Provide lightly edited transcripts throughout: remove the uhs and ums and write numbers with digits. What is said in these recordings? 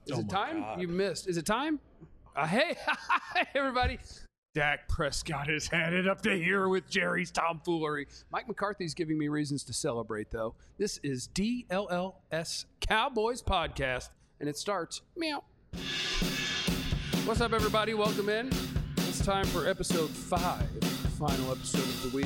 Is it time? God. You missed. Is it time? Hey, everybody. Dak Prescott is headed up to here with Jerry's tomfoolery. Mike McCarthy's giving me reasons to celebrate, though. This is DLLS Cowboys Podcast, and it starts meow. What's up, everybody? Welcome in. It's time for episode 5, final episode of the week.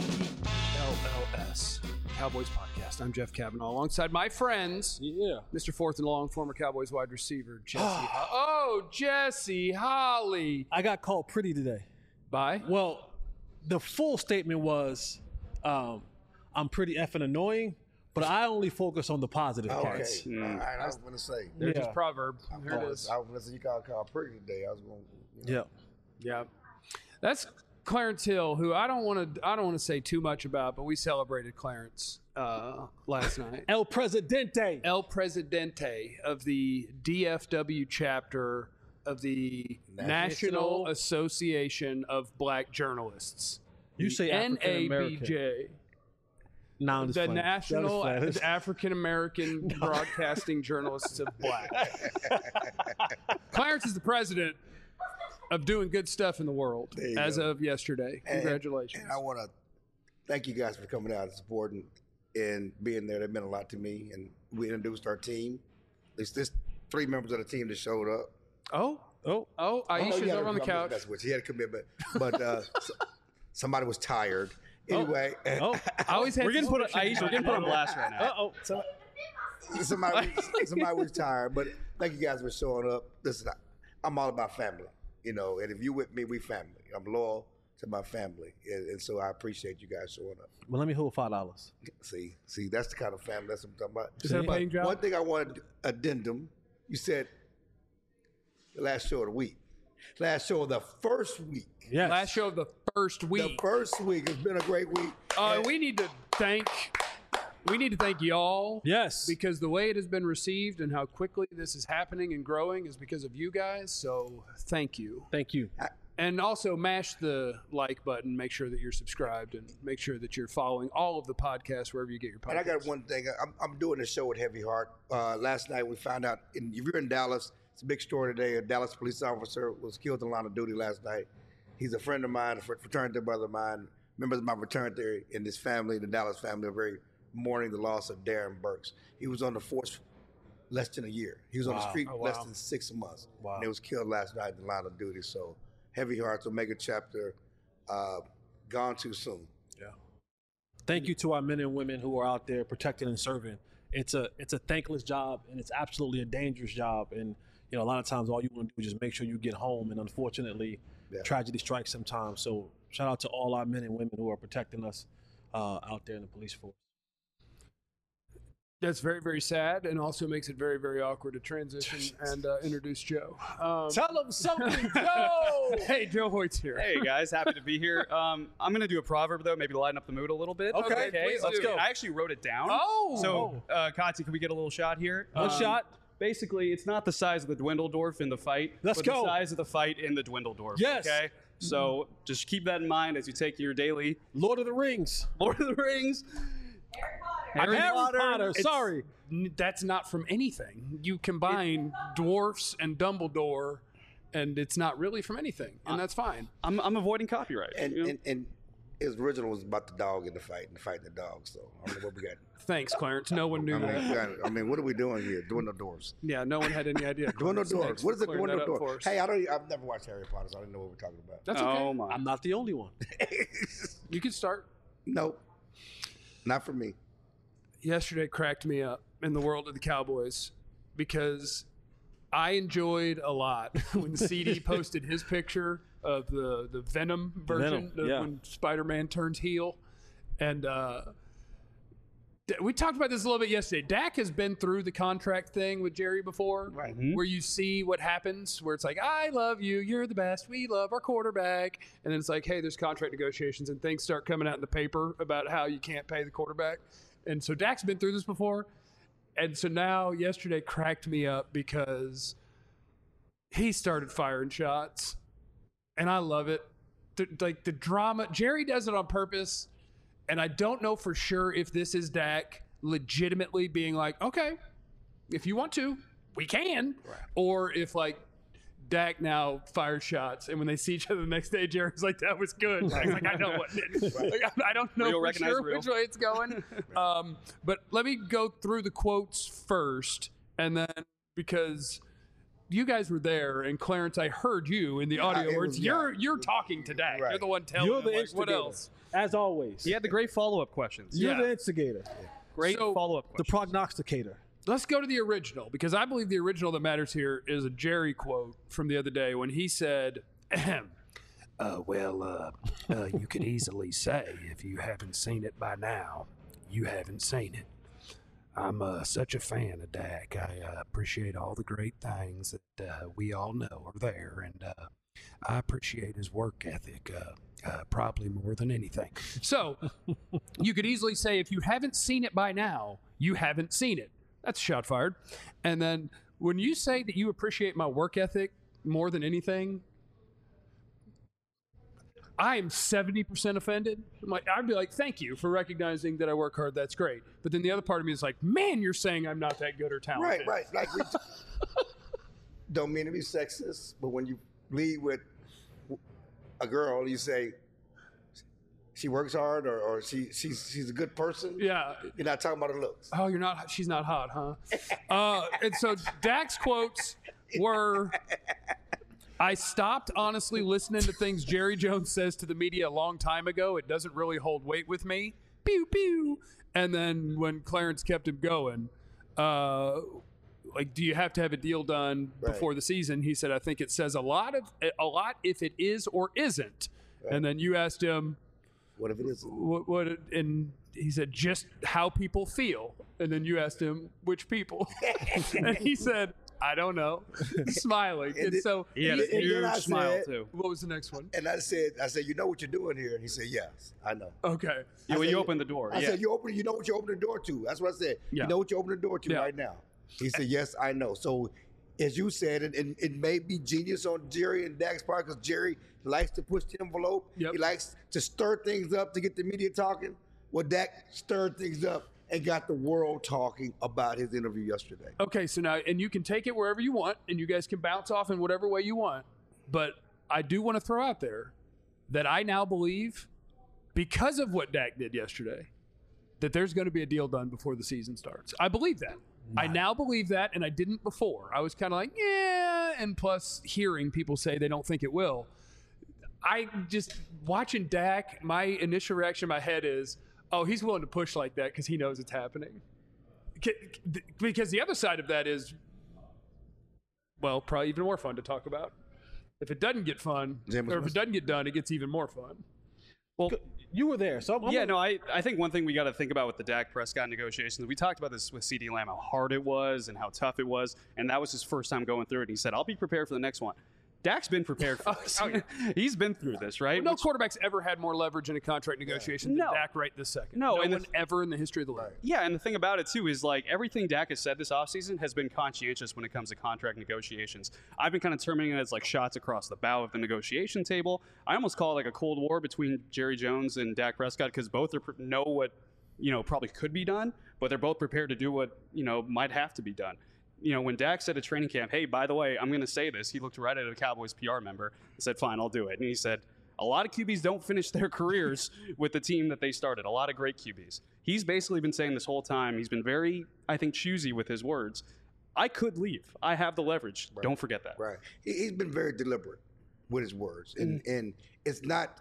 DLLS Cowboys Podcast. I'm Jeff Kavanaugh, alongside my friends, Mr. Fourth and Long, former Cowboys wide receiver, Jesse. Jesse Holly. I got called pretty today. Bye. Well, the full statement was, I'm pretty effing annoying, but I only focus on the positive parts. Okay. All right, I was going to say. There's his Yeah. proverb. Here it I is. was going to say you got called pretty today. I was going to. Yeah. Yeah. That's Clarence Hill, who I don't want to say too much about, but we celebrated Clarence last night. El Presidente. El Presidente of the DFW chapter of the National Association of Black Journalists. You say African American. NABJ. No, I'm just The playing. National That was funny. African American Broadcasting Journalists of Black. Clarence is the president of doing good stuff in the world There you as go. of yesterday. Congratulations. And I want to thank you guys for coming out and supporting and being there. That meant a lot to me. And we introduced our team. There's 3 members of the team that showed up. Oh, Oh, Aisha's you had over on the to- couch. That's what she had a commitment, but somebody was tired. Anyway, Oh, I always had We're getting put on Aisha. We're getting put on blast right now. somebody was tired. But thank you guys for showing up. Listen, I'm all about family, and if you with me, we family. I'm loyal to my family, and so I appreciate you guys showing up. well, let me hold $5. See, that's the kind of family that's what I'm talking about. Is that a But paying job? one thing I wanted to addendum. You said the last show of the week, last show of the first week. Yes. Last show of the first week. The first week has been a great week. We need to thank y'all. Yes. Because the way it has been received and how quickly this is happening and growing is because of you guys. So thank you. Thank you. And also mash the like button. Make sure that you're subscribed and make sure that you're following all of the podcasts wherever you get your podcasts. And I got one thing. I'm doing a show with Heavy Heart. Last night we found out, if you're in Dallas, it's a big story today. A Dallas police officer was killed in the line of duty last night. He's a friend of mine, a fraternity brother of mine. Members of my fraternity and his family, the Dallas family, are very mourning the loss of Darren Burks. He was on the force less than a year. He was on the street less than 6 months. Wow. And he was killed last night in the line of duty. So Heavy Hearts, Omega chapter, gone too soon. Thank you to our men and women who are out there protecting and serving. It's a thankless job, and it's absolutely a dangerous job. And a lot of times all you want to do is just make sure you get home. And unfortunately, tragedy strikes sometimes. So shout out to all our men and women who are protecting us out there in the police force. That's very, very sad and also makes it very, very awkward to transition and introduce Joe. Tell them something, Joe. Hey, Joe Hoyt's here. Hey guys, happy to be here. I'm gonna do a proverb though, maybe to lighten up the mood a little bit. Okay, please let's do. go. I actually wrote it down. Oh. So, Kati, can we get a little shot here? One shot. Basically, it's not the size of the Dwindledorf in the fight, Let's but go. the size of the fight in the Dwindledorf. Yes. Okay. So just keep that in mind as you take your daily Lord of the Rings. Lord of the Rings. Harry Potter. It's- Sorry. That's not from anything. You combine dwarfs and Dumbledore, and it's not really from anything, and that's fine. I'm avoiding copyright. you know? And his original was about the dog in the fight and fighting the dog. So I don't know what we got. Thanks, Clarence. No one knew that. I mean, what are we doing here? Doing the doors. Yeah, no one had any idea. Doing the Clarence. doors. Thanks What is for it? clearing Doing that the up for doors. us. Hey, I've never watched Harry Potter, so I didn't know what we're talking about. That's okay. Oh my. I'm not the only one. You can start. Nope, not for me. Yesterday cracked me up in the world of the Cowboys because I enjoyed a lot when CD posted his picture of the Venom version Venom, yeah. when Spider-Man turns heel. And we talked about this a little bit yesterday. Dak has been through the contract thing with Jerry before, Right. where you see what happens, where it's like, I love you, you're the best, we love our quarterback. And then it's like, hey, there's contract negotiations and things start coming out in the paper about how you can't pay the quarterback. And so Dak's been through this before. And so now yesterday cracked me up because he started firing shots. And I love it. Like the drama, Jerry does it on purpose. And I don't know for sure if this is Dak legitimately being like, okay, if you want to, we can. Right. Or if like Dak now fires shots, and when they see each other the next day, Jerry's like, "That was good." Dak's like, "I know what did." Right. Like, I don't know for sure which way it's going. But let me go through the quotes first, and then because you guys were there, and Clarence, I heard you in the audio words. You're talking to Dak. Right. You're the one telling him. Like, what else? As always. He had the great follow-up questions. You're the instigator. Great follow-up questions. The prognosticator. Let's go to the original, because I believe the original that matters here is a Jerry quote from the other day when he said, you could easily say, if you haven't seen it by now, you haven't seen it. I'm such a fan of Dak. I appreciate all the great things that we all know are there, and I appreciate his work ethic probably more than anything. So you could easily say, if you haven't seen it by now, you haven't seen it. That's a shot fired. And then when you say that you appreciate my work ethic more than anything, I am 70% offended. I'd be like, thank you for recognizing that I work hard. That's great. But then the other part of me is like, man, you're saying I'm not that good or talented. Right. Like, don't mean to be sexist, but when you lead with a girl, you say, she works hard, or she's a good person. Yeah. You're not talking about her looks. Oh, you're not. She's not hot, huh? And so Dak's quotes were, I stopped honestly listening to things Jerry Jones says to the media a long time ago. It doesn't really hold weight with me. Pew, pew. And then when Clarence kept him going, like, do you have to have a deal done before the season? He said, I think it says a lot if it is or isn't. Right. And then you asked him, what if it isn't? What? And he said, just how people feel. And then you asked him, which people? And he said, I don't know. Smiling. And so he had a huge smile too. What was the next one? And I said, you know what you're doing here? And he said, yes, I know. Okay. Yeah, well, you opened the door. I said, you know what you opened the door to. That's what I said. Yeah. You know what you opened the door to right now. He said, yes, I know. So as you said, and it may be genius on Jerry and Dak's part, because Jerry likes to push the envelope. Yep. He likes to stir things up to get the media talking. Well, Dak stirred things up and got the world talking about his interview yesterday. Okay, so now, and you can take it wherever you want, and you guys can bounce off in whatever way you want. But I do want to throw out there that I now believe, because of what Dak did yesterday, that there's going to be a deal done before the season starts. I believe that. I now believe that, and I didn't before. I was kind of like, yeah, and plus hearing people say they don't think it will. I just, watching Dak, my initial reaction in my head is, oh, he's willing to push like that because he knows it's happening. Because the other side of that is, well, probably even more fun to talk about. If it doesn't get fun, or if it doesn't get done, it gets even more fun. Well, you were there, so I think one thing we got to think about with the Dak Prescott negotiations, we talked about this with CeeDee Lamb, how hard it was and how tough it was, and that was his first time going through it. And he said, I'll be prepared for the next one. Dak's been prepared for this. He's been through this, right? Well, no quarterback's ever had more leverage in a contract negotiation than Dak right this second. No one ever in the history of the league. Yeah, and the thing about it, too, is like everything Dak has said this offseason has been conscientious when it comes to contract negotiations. I've been kind of terming it as like shots across the bow of the negotiation table. I almost call it like a Cold War between Jerry Jones and Dak Prescott, because both know what, probably could be done, but they're both prepared to do what, might have to be done. When Dak said at training camp, hey, by the way, I'm going to say this, he looked right at a Cowboys PR member and said, fine, I'll do it. And he said, a lot of QBs don't finish their careers with the team that they started, a lot of great QBs. He's basically been saying this whole time, he's been very, I think, choosy with his words. I could leave. I have the leverage. Right. Don't forget that. Right. He's been very deliberate with his words. And it's not,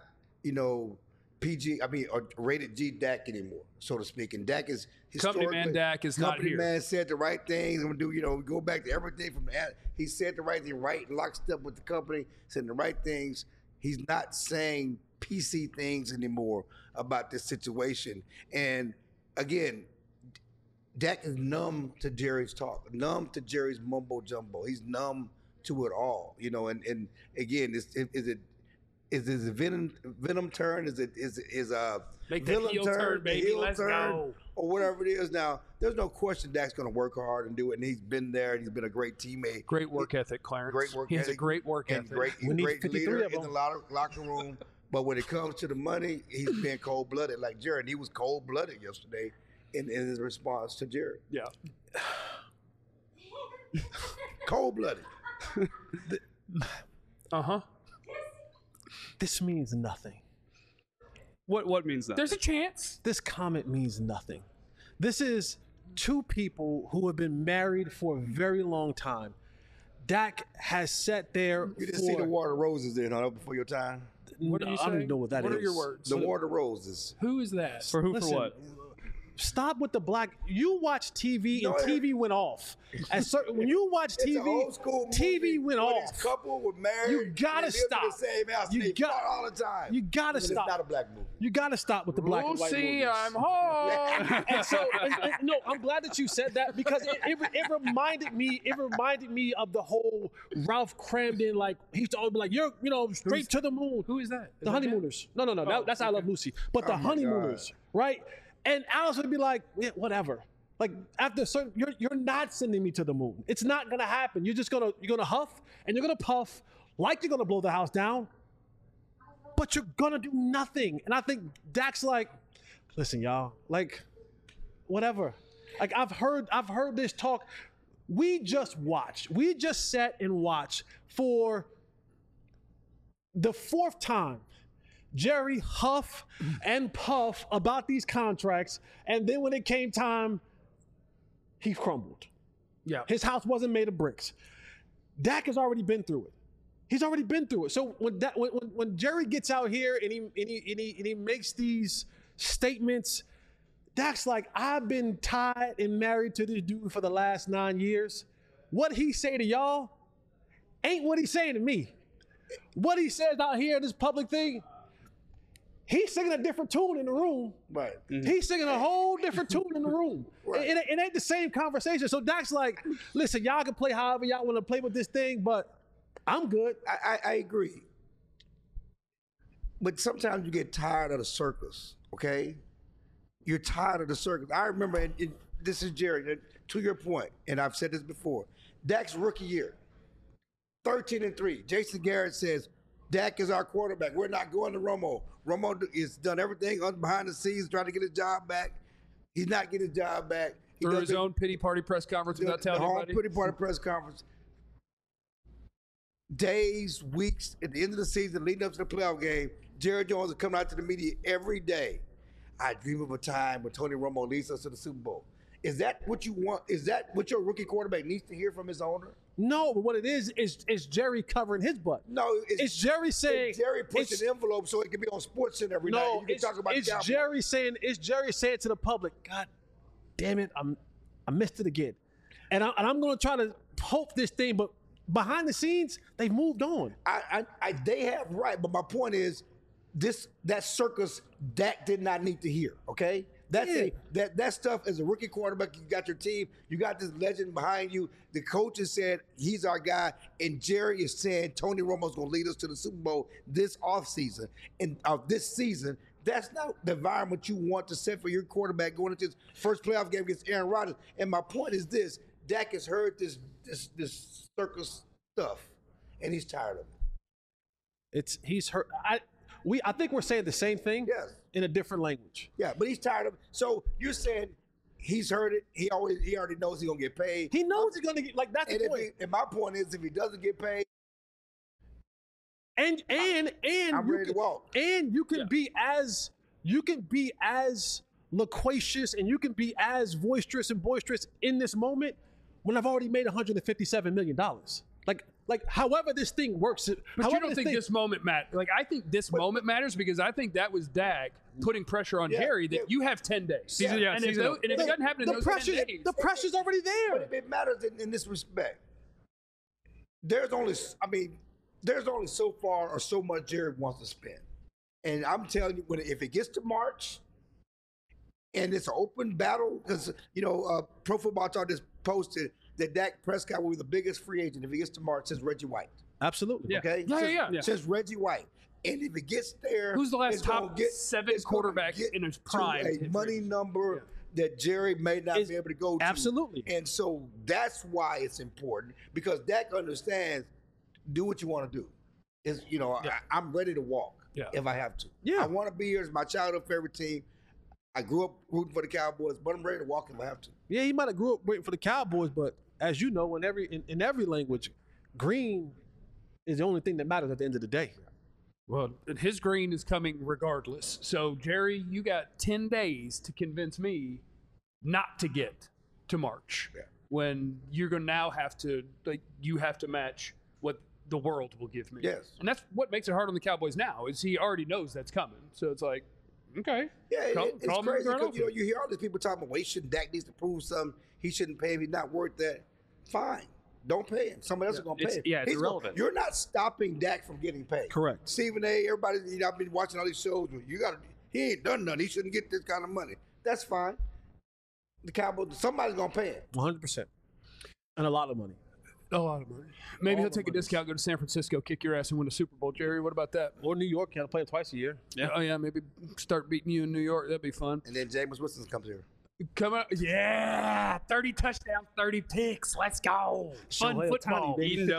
or rated G Dak anymore, so to speak. And Dak is company man. Dak is not here. Company man said the right things. I'm gonna do, go back to everything from that. He said the right thing, right, lockstep with the company, said the right things. He's not saying PC things anymore about this situation. And again, Dak is numb to Jerry's talk, numb to Jerry's mumbo jumbo. He's numb to it all, And again, is it a venom turn? Is a make the heel turn, baby? Let's go. Or whatever it is. Now, there's no question Dak's going to work hard and do it, and he's been there. And he's been a great teammate. Great work ethic, Clarence. Great work ethic. He has a great work ethic. He's a great leader in the locker room. But when it comes to the money, he's been cold-blooded like Jerry. And he was cold-blooded yesterday in his response to Jerry. Yeah. Cold-blooded. This means nothing. What means that? There's a chance. This comment means nothing. This is two people who have been married for a very long time. Dak has sat there. You didn't see the water roses then, huh, before your time? What are you I don't saying? even know what that is. What are your words? The water roses. Who is that? For who? Listen, For what? Stop with the black. You watch TV No, and TV went off. When you watch It's TV, an old school movie TV went where off. This couple were married. You gotta and they lived stop. in the same house. You They got- fought all the time. You gotta And stop. It's not a black movie. You gotta stop with the black and white Lucy, movies. I'm home. And so, no, I'm glad that you said that because it reminded me. It reminded me of the whole Ralph Cramden. Like he used to always be like, "You're, straight to the moon." Who is that? Is The that honeymooners. No. That's I Love Lucy. But the my honeymooners, right? And Alice would be like, yeah, whatever. Like after a certain, you're not sending me to the moon. It's not gonna happen. You're gonna huff and you're gonna puff like you're gonna blow the house down, but you're gonna do nothing. And I think Dak's like, listen, y'all, like, whatever. Like I've heard this talk. We just sat and watched for the fourth time Jerry huff and puff about these contracts, and then when it came time, he crumbled. Yeah. His house wasn't made of bricks. Dak has already been through it. He's already been through it. So when Jerry gets out here and he makes these statements, Dak's like, I've been tied and married to this dude for the last 9 years. What he say to y'all ain't what he's saying to me. What he says out here in this public thing, he's singing a different tune in the room. Right. He's singing a whole different tune in the room. Right. It ain't the same conversation. So Dak's like, listen, y'all can play however y'all want to play with this thing, but I'm good. I agree. But sometimes you get tired of the circus, okay? You're tired of the circus. I remember, and this is Jerry, to your point, and I've said this before, Dak's rookie year, 13-3. Jason Garrett says, Dak is our quarterback. We're not going to Romo. Romo has done everything behind the scenes, trying to get his job back. He's not getting his job back. He Through does his own pity party press conference without telling the whole anybody. pity party press conference. Days, weeks, at the end of the season, leading up to the playoff game, Jerry Jones is coming out to the media every day. I dream of a time when Tony Romo leads us to the Super Bowl. Is that what you want? Is that what your rookie quarterback needs to hear from his owner? No, but what it is Jerry covering his butt. No, It's Jerry saying, it's Jerry pushing it's- an envelope so it can be on SportsCenter every night. no, You can talk about it's Cowboys. Jerry saying to the public, God damn it, I missed it again. And I'm going to try to hope this thing, but behind the scenes, they've moved on. They have right, but my point is, that circus Dak did not need to hear. Okay, that stuff as a rookie quarterback. You got your team, you got this legend behind you. The coaches said he's our guy, and Jerry is saying Tony Romo's going to lead us to the Super Bowl this offseason and this season. That's not the environment you want to set for your quarterback going into his first playoff game against Aaron Rodgers. And my point is this: Dak has heard this circus stuff, and he's tired of it. He's hurt. I think we're saying the same thing in a different language. Yeah, but he's tired of it. So you're saying he's heard it. He already knows he's gonna get paid. He knows he's gonna get that's the point. And my point is, if he doesn't get paid, And I'm ready to walk. And you can be as loquacious and you can be as boisterous in this moment when I've already made $157 million. Like however this thing works. But you don't think this moment matters? Like, I think this moment matters because I think that was Dak putting pressure on Jerry that you have 10 days. And if it doesn't happen in those 10 days, the pressure's already there. But it matters in this respect. There's only so far or so much Jerry wants to spend. And I'm telling you, if it gets to March and it's an open battle, because, Pro Football Talk just posted that Dak Prescott will be the biggest free agent if he gets to March since Reggie White. Absolutely. Okay? Yeah. Since Reggie White. And if it gets there, who's the last it's gonna top get- 7 it's gonna quarterback get in his to prime? a money number that Jerry may not be able to go to. Absolutely. And so that's why it's important, because Dak understands, do what you want to do. I'm ready to walk if I have to. Yeah. I want to be here. It's my childhood favorite team. I grew up rooting for the Cowboys, but I'm ready to walk if I have to. Yeah, he might have grew up waiting for the Cowboys, but as you know, in every language, green is the only thing that matters at the end of the day. Well, his green is coming regardless. So, Jerry, you got 10 days to convince me not to get to March when you're going to now have to, you have to match what the world will give me. Yes. And that's what makes it hard on the Cowboys now is he already knows that's coming. So it's like, okay. Yeah, it's call me crazy right because over. you hear all these people talking about, well, Dak needs to prove something. He shouldn't pay him. He's not worth that. Fine. Don't pay him. Somebody else is going to pay him. Yeah, it's He's irrelevant. You're not stopping Dak from getting paid. Correct. Stephen A., everybody, I've been watching all these shows. He ain't done nothing. He shouldn't get this kind of money. That's fine. The Cowboys, somebody's going to pay him. 100%. And a lot of money. A lot of money. Maybe All he'll the take a money. discount, go to San Francisco, kick your ass, and win a Super Bowl. Jerry, what about that? Or New York, can't play it twice a year. Yeah. Oh, yeah, maybe start beating you in New York. That'd be fun. And then Jameis Winston comes here. Come on. Yeah. 30 touchdowns, 30 picks. Let's go. Fun Shohei football. Ohtani, baby, Eating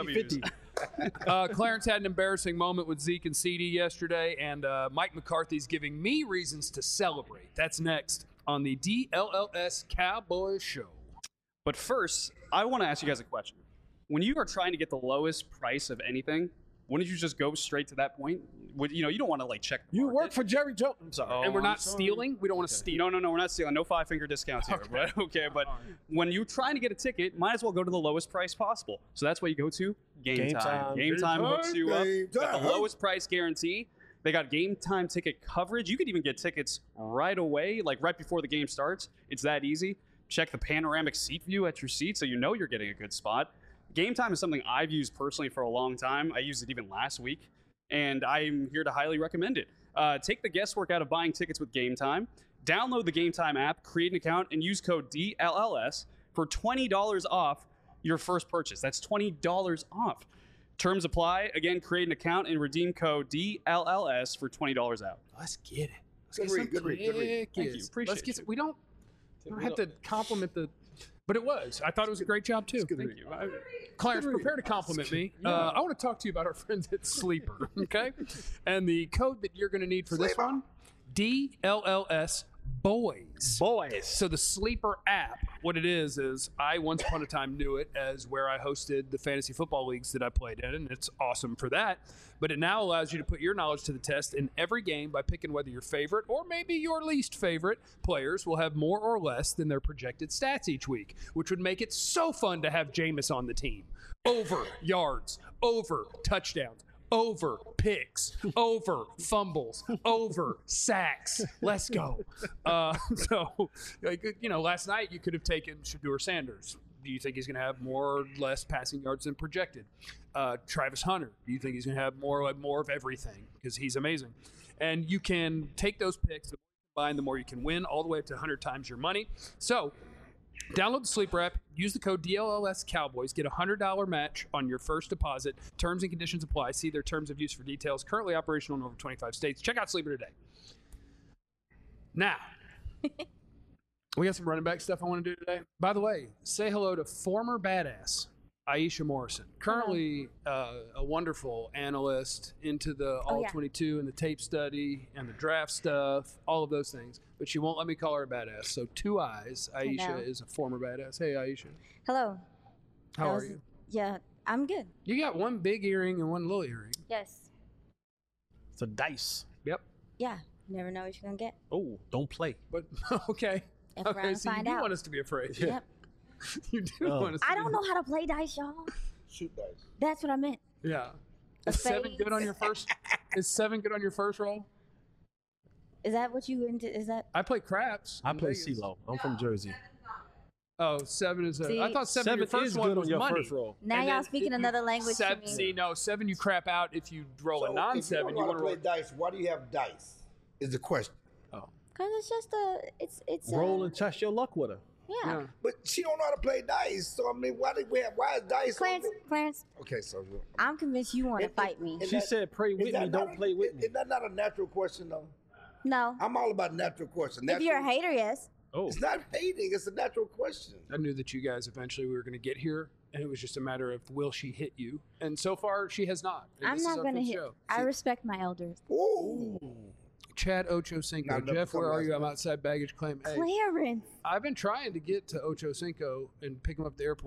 50-50. Clarence had an embarrassing moment with Zeke and CD yesterday, and Mike McCarthy's giving me reasons to celebrate. That's next on the DLLS Cowboys Show. But first, I want to ask you guys a question. When you are trying to get the lowest price of anything, wouldn't you just go straight to that point? You don't want to check. The You market. work for Jerry Jones. I'm sorry. Oh, And we're I'm not sorry. stealing. We don't want to steal. No, we're not stealing. No 5-finger discounts here. But okay, but when you're trying to get a ticket, might as well go to the lowest price possible. So that's why you go to Game Time. Game Time hooks you up. Game Got the Time. lowest price guarantee. They got Game Time ticket coverage. You could even get tickets right away, right before the game starts. It's that easy. Check the panoramic seat view at your seat so you know you're getting a good spot. Game Time is something I've used personally for a long time. I used it even last week, and I'm here to highly recommend it. Take the guesswork out of buying tickets with Game Time. Download the Game Time app, create an account, and use code DLLS for $20 off your first purchase. That's $20 off. Terms apply. Again, create an account and redeem code DLLS for $20 out. Let's get it. Let's Good get read, some good read, good read. tickets. Thank you. Appreciate Let's get. you. We don't have to compliment the. But it was. I thought it was a great job too. Thank you. Clarence, prepare to compliment me. I want to talk to you about our friends at Sleeper, okay? And the code that you're going to need for this one, DLLS Boys. Boys. So the Sleeper app, what it is I once upon a time knew it as where I hosted the fantasy football leagues that I played in, and it's awesome for that. But it now allows you to put your knowledge to the test in every game by picking whether your favorite or maybe your least favorite players will have more or less than their projected stats each week, which would make it so fun to have Jameis on the team. Over yards, over touchdowns, over picks, over fumbles, over sacks. Let's go. Last night you could have taken Shedeur Sanders. Do you think he's going to have more or less passing yards than projected? Travis Hunter. Do you think he's going to have more of everything? Because he's amazing. And you can take those picks, the more you combine, the more you can win, all the way up to 100 times your money. So download the Sleeper app, use the code DLLS Cowboys, get a $100 match on your first deposit. Terms and conditions apply. See their terms of use for details. Currently operational in over 25 states. Check out Sleeper today. Now, we got some running back stuff I want to do today. By the way, say hello to former badass Aisha Morrison, currently a wonderful analyst into the All-22 and the tape study and the draft stuff, all of those things. But she won't let me call her a badass. So, Two Eyes, Aisha is a former badass. Hey, Aisha. Hello. How are you? Yeah, I'm good. You got one big earring and one little earring. Yes. It's a dice. Yep. Yeah. You never know what you're gonna get. Oh, don't play. But, okay. F Okay, around, so you find do out. want us to be afraid. Yep. You do Oh. want us to I be don't know how to play dice, y'all. Shoot dice. That's what I meant. Yeah. A Is 7 spade. good on your first? Is 7 good on your first roll? Is that what you into? Is that? I play craps. I in play Vegas. CeeLo. I'm from Jersey. Oh, 7 is a. See, I thought 7 your Seven first is one good was on your money. first roll. Now And y'all then speaking if you- another language to me. See, no, 7 you crap out if you roll a So, non-7. if You you want want to to play roll. dice, why do you have dice? Is the question. Cause it's just it's Roll and test your luck with her. yeah. But she don't know how to play dice. So I mean, why is dice? Clarence, Okay, so I'm convinced you want to fight me. Is She that- said, pray is with that me, not don't play with me. Is that not a natural question though? No. I'm all about natural question. If you're a hater, yes. Oh, It's not hating. It's a natural question. I knew that you guys eventually were going to get here, and it was just a matter of will she hit you? And so far, she has not. And I'm this is not our gonna fifth hit. show. I respect my elders. Ooh. Chad Ochocinco. Not enough Jeff, for where are last you? I'm night. outside baggage claim. Hey, Clarence. I've been trying to get to Ochocinco and pick him up at the airport. Where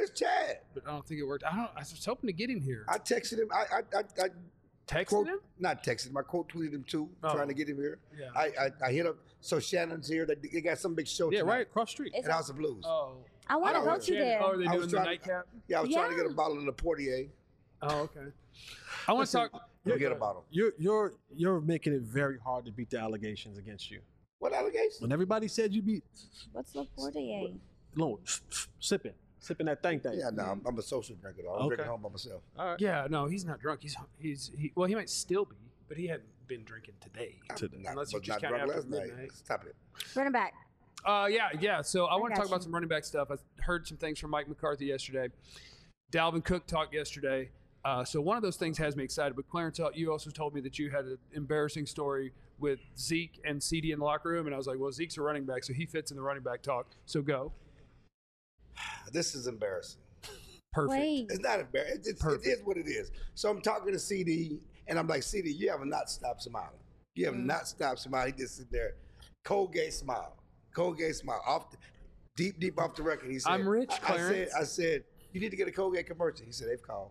Where's Chad? but I don't think it worked. I was hoping to get him here. I texted him. I Texted quote, him? not texted him. I quote tweeted him too, Oh. trying to get him here. Yeah. I hit up. So Shannon's here. They got some big show Yeah, tonight right across the street. It's at House of Blues. Oh. I want to don't go know, to Shannon. there. Oh, are they I doing was the trying to- nightcap? Yeah, I was trying to get a Yeah. bottle of the Portier. Oh, okay. I want to talk. You'll get a bottle. You're making it very hard to beat the allegations against you. What allegation? When everybody said you beat, What's the 48? no, sipping that thing. Yeah, no, I'm a social drinker. Though. I'm Okay. drinking home by myself. All right. Yeah, no, he's not drunk. Well, he might still be, but he hadn't been drinking today. Not, Unless you was just not count drunk after last night. midnight. Stop it. Running back. Yeah. So I want to got talk about you. some running back stuff. I heard some things from Mike McCarthy yesterday. Dalvin Cook talked yesterday. So one of those things has me excited. But Clarence, you also told me that you had an embarrassing story with Zeke and CD in the locker room, and I was like, well, Zeke's a running back, so he fits in the running back talk. So go. This is embarrassing. Perfect. Wait. It's not embarrassing. It is what it is. So I'm talking to CD, and I'm like, CD, you have not stopped smiling. You have not stopped smiling. He just sit there, Colgate smile, off deep off the record. He said, I'm rich, Clarence. I said, you need to get a Colgate commercial. He said, they've called.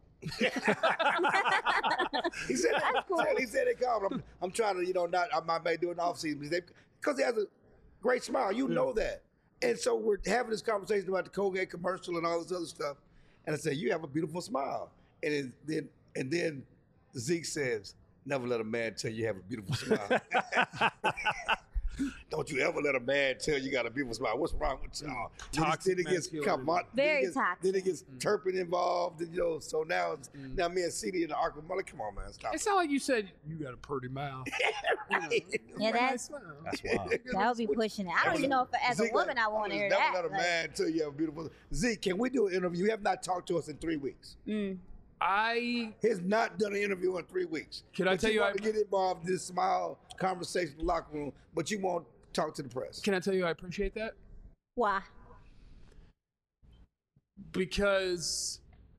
he said, they called. I'm trying to, I might do an off season because he has a great smile. You know that. And so we're having this conversation about the Colgate commercial and all this other stuff. And I said, you have a beautiful smile. And then Zeke says, never let a man tell you have a beautiful smile. Don't you ever let a man tell you got a beautiful smile. What's wrong with y'all? Toxic Then it gets masculinity. Very toxic. Then it gets Turpin involved. And, so now me and CD in the arc. I'm like, come on, man, stop. It's not like you said you got a pretty mouth. Right. Yeah, That's wild. that would be pushing it. I don't even know if as a Zeke, woman I want to hear never that. let a man tell you have a beautiful. Zeke, can we do an interview? You have not talked to us in 3 weeks. I He has not done an interview in 3 weeks. Can I But tell you want I- to get involved in this smile conversation in the locker room, but you won't talk to the press. can I tell you I appreciate that? Why? Because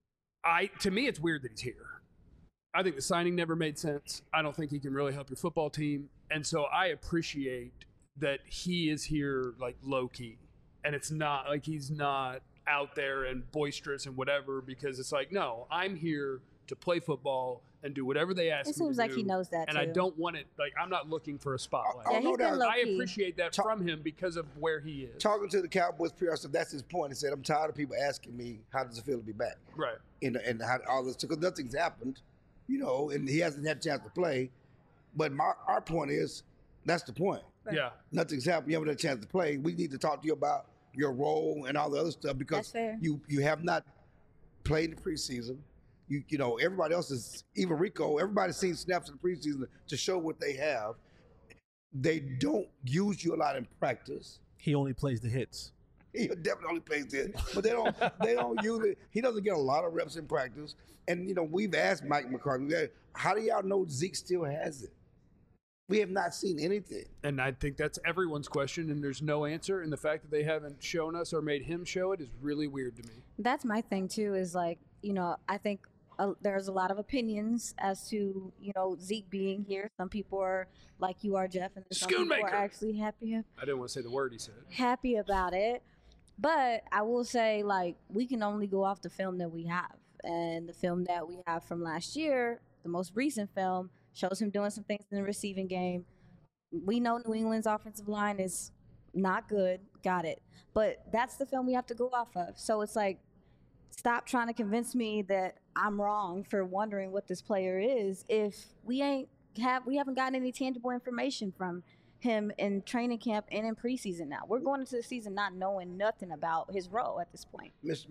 to me it's weird that he's here. I think the signing never made sense. I don't think he can really help your football team. And so I appreciate that he is here like low key. And it's not like he's not out there and boisterous and whatever, because it's like, no, I'm here to play football and do whatever they ask me It seems to like do. he knows that And too. I don't want it, like, I'm not looking for a spotlight. Yeah, no he's been doubt. low I key. appreciate that from him because of where he is. Talking to the Cowboys PR stuff, that's his point. He said, I'm tired of people asking me, how does it feel to be back? Right. And how all this, because nothing's happened, and he hasn't had a chance to play. But our point is, that's the point. Yeah. Nothing's happened. You haven't had a chance to play. We need to talk to you about your role and all the other stuff because That's fair. you have not played in the preseason. Everybody else is, even Rico, everybody's seen snaps in the preseason to show what they have. They don't use you a lot in practice. He only plays the hits. He definitely plays it, but they don't use it. He doesn't get a lot of reps in practice. And we've asked Mike McCarthy, how do y'all know Zeke still has it? We have not seen anything. And I think that's everyone's question, and there's no answer. And the fact that they haven't shown us or made him show it is really weird to me. That's my thing too. Is like, I think there's a lot of opinions as to Zeke being here. Some people are like you are, Jeff, and then some people Schoonmaker. are actually happy I didn't want to say the word he said. about it. But I will say, like, we can only go off the film that we have, and the film that we have from last year, the most recent film, shows him doing some things in the receiving game. We know New England's offensive line is not good. Got it. But that's the film we have to go off of. So it's like, stop trying to convince me that I'm wrong for wondering what this player is if we haven't gotten any tangible information from him in training camp and in preseason now. We're going into the season not knowing nothing about his role at this point. Miss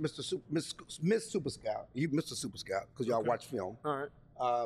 Super Scout, Mr. Super Scout, because y'all watch film. All right.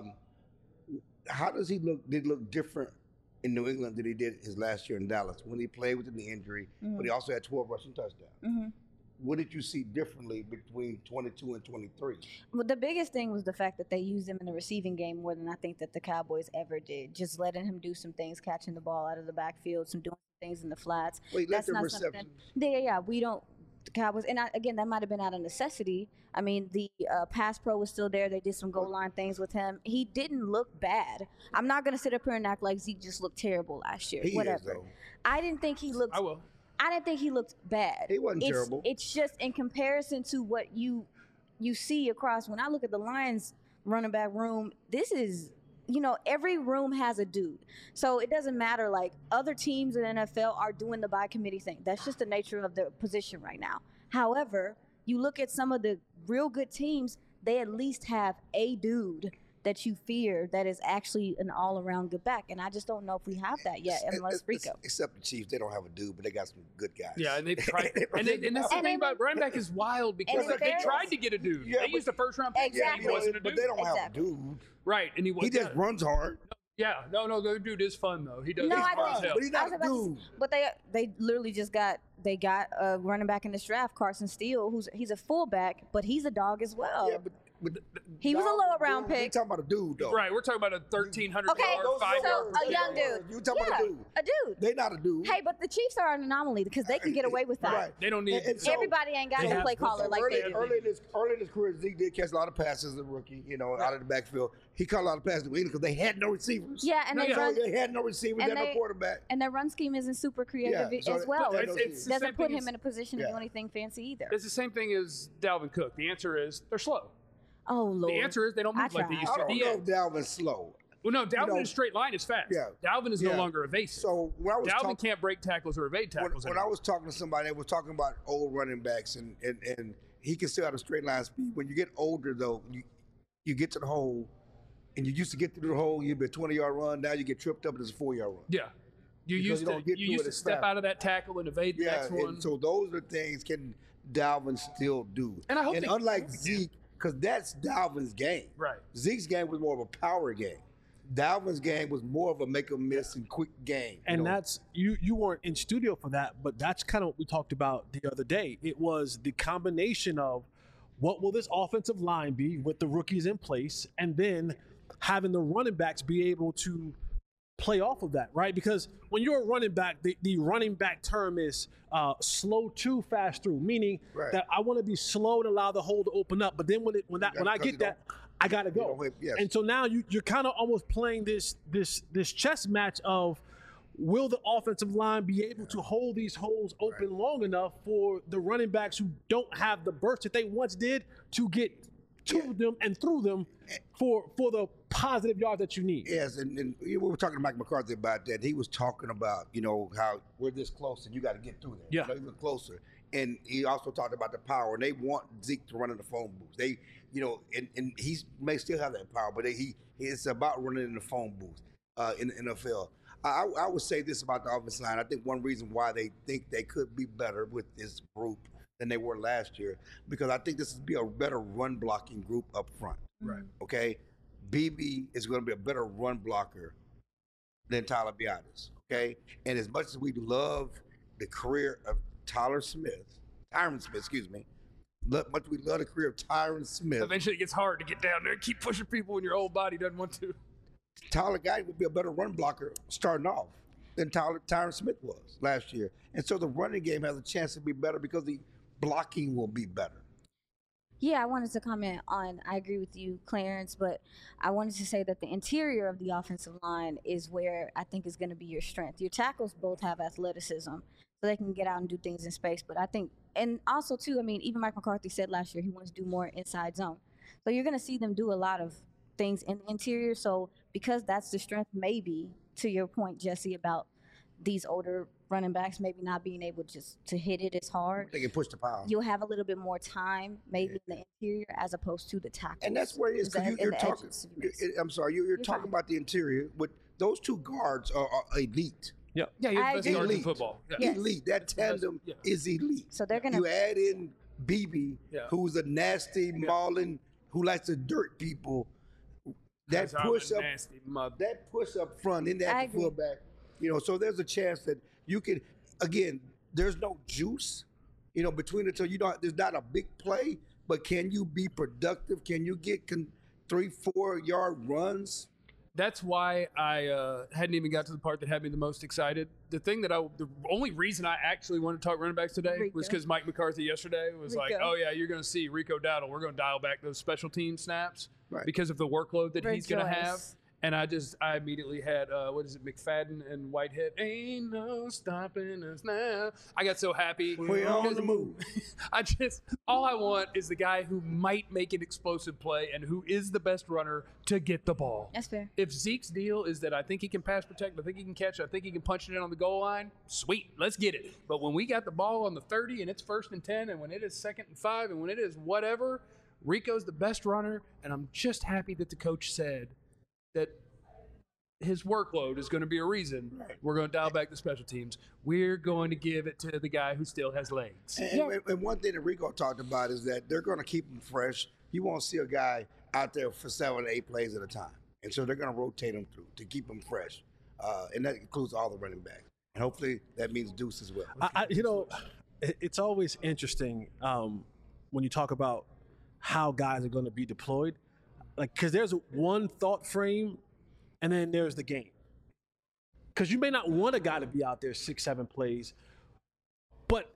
How does he look? Did he look different in New England than he did his last year in Dallas when he played with the knee injury, but he also had 12 rushing touchdowns? What did you see differently between 22 and 23? Well, the biggest thing was the fact that they used him in the receiving game more than I think that the Cowboys ever did. Just letting him do some things, catching the ball out of the backfield, doing things in the flats. Wait, let That's the not receptions. something. Yeah. We don't. The Cowboys, and again, that might have been out of necessity. I mean, the pass pro was still there. They did some goal line things with him. He didn't look bad. I'm not going to sit up here and act like Zeke just looked terrible last year. He Whatever. is, though. I didn't think he looked. I will. I didn't think he looked bad. He wasn't terrible. It's just in comparison to what you see across. When I look at the Lions running back room, this is, every room has a dude. So it doesn't matter. Like, other teams in the NFL are doing the by committee thing. That's just the nature of the position right now. However, you look at some of the real good teams, they at least have a dude that you fear that is actually an all-around good back. And I just don't know if we have that yet, unless Rico. Except the Chiefs, they don't have a dude, but they got some good guys. Yeah, and they've tried. and that's the thing about running back is wild because they tried to get a dude. Yeah, they used a first-round pick. Exactly. He wasn't a But dude. they don't have a dude. Right, and He just runs hard. Yeah, no, the dude is fun though. He does. No, he's I fun as think- hell. But he's I not was a about to dude. But they literally just got a running back in this draft, Carson Steele, he's a fullback, but he's a dog as well. Yeah, but He was a lower round We pick. talking about a dude though. Right, we're talking about a 1,300 Okay, yard, Those 5 so yard. a young dude. You talking about a dude? A dude. They not a dude. Hey, but the Chiefs are an anomaly because they can get away with that. Right. They don't need. And so- Everybody ain't got They no have- play caller like they do. Early in his career, Zeke did catch a lot of passes as a rookie, out of the backfield. He caught a lot of passes to England because they had no receivers. Yeah, and they run, They had no receivers, they and had no they- quarterback. and their run scheme isn't super creative Yeah, so as they- well. but It it's the same doesn't put thing him as- in a position to do Yeah. anything fancy either. It's the same thing as Dalvin Cook. The answer is they're slow. Oh Lord. The answer is they don't I move like they tried. used I to. don't The know end. if Dalvin's slow. Well, no, Dalvin know- in a straight line is fast. Yeah. Dalvin is no Yeah. longer evasive. So when I was Dalvin talking, can't break tackles or evade tackles when I anymore. was talking to somebody, they were talking about old running backs, and he can still have a straight line speed. When you get older, though, you get to the hole, and you used to get through the hole, you'd be a 20-yard run. Now you get tripped up, and it's a 4-yard run. Yeah. You Because used you to don't get you through used it to as step fast. out of that tackle and evade the Yeah, next one. and so those are things can Dalvin still do. And I hope they- unlike Zeke, because that's Dalvin's game. Right. Zeke's game was more of a power game. Dalvin's game was more of a make or miss and quick game. And that's you weren't in studio for that, but that's kind of what we talked about the other day. It was the combination of what will this offensive line be with the rookies in place, and then having the running backs be able to play off of that, right? Because when you're a running back, the running back term is slow to fast through, meaning Right. that I want to be slow and allow the hole to open up. But then when I because get you that, I gotta go. Yes. And so now you're kind of almost playing this chess match of will the offensive line be able to hold these holes open long enough for the running backs who don't have the burst that they once did to get to them and through them for the positive yards that you need. Yes, and we were talking to Mike McCarthy about that. He was talking about, how we're this close and you got to get through there. Yeah. Even closer. And he also talked about the power. And they want Zeke to run in the phone booth. They, and he may still have that power, but it's about running in the phone booth in the NFL. I would say this about the offensive line. I think one reason why they think they could be better with this group than they were last year, because I think this would be a better run blocking group up front. Right. Okay? BB is going to be a better run blocker than Tyler Biadasz. Okay? And as much as we love the career of Tyron Smith, much we love the career of Tyron Smith, Eventually, it gets hard to get down there and keep pushing people when your old body doesn't want to. Tyler Guy would be a better run blocker starting off than Tyron Smith was last year. And so the running game has a chance to be better because the blocking will be better. Yeah, I wanted to comment on, I agree with you, Clarence, but I wanted to say that the interior of the offensive line is where I think is going to be your strength. Your tackles both have athleticism, so they can get out and do things in space. But I think, and also too, even Mike McCarthy said last year he wants to do more inside zone. So you're going to see them do a lot of things in the interior. So because that's the strength, maybe, to your point, Jesse, about these older running backs maybe not being able just to hit it as hard, They can push the power. you'll have a little bit more time maybe in the interior as opposed to the tackles. And that's where it is, because you're talking. I'm sorry, you're talking fine. about the interior. But those two guards are elite. Yeah, you're the I best agree. guards in Elite. football. Yeah. Yes. Elite. That tandem Yeah. is elite. So they're gonna You add in BB, Yeah. who's a nasty, mauling, who likes to dirt people. That I'm a push up, nasty mother. that push up front in I that agree. fullback. So there's a chance that you can. Again, there's no juice, between the two. There's not a big play, but can you be productive? Can you get 3-4 yard runs? That's why I hadn't even got to the part that had me the most excited. The only reason I actually wanted to talk running backs today Rico. was because Mike McCarthy yesterday was like, Rico. "Oh yeah, you're going to see Rico Dowdle. We're going to dial back those special team snaps Right. because of the workload that he's going to have." Rejoice. And I immediately had, McFadden and Whitehead. Ain't no stopping us now. I got so happy. We're on the move. All I want is the guy who might make an explosive play and who is the best runner to get the ball. That's fair. If Zeke's deal is that I think he can pass protect, I think he can catch, I think he can punch it in on the goal line, sweet, let's get it. But when we got the ball on the 30 and it's 1st and 10 and when it is 2nd and 5 and when it is whatever, Rico's the best runner, and I'm just happy that the coach said that his workload is going to be a reason we're going to dial back the special teams. We're going to give it to the guy who still has legs. And one thing that Rico talked about is that they're going to keep him fresh. You won't see a guy out there for 7 or 8 plays at a time. And so they're going to rotate him through to keep him fresh. And that includes all the running backs. And hopefully that means Deuce as well. It's always interesting when you talk about how guys are going to be deployed. Like, because there's one thought frame and then there's the game. Because you may not want a guy to be out there 6-7 plays, but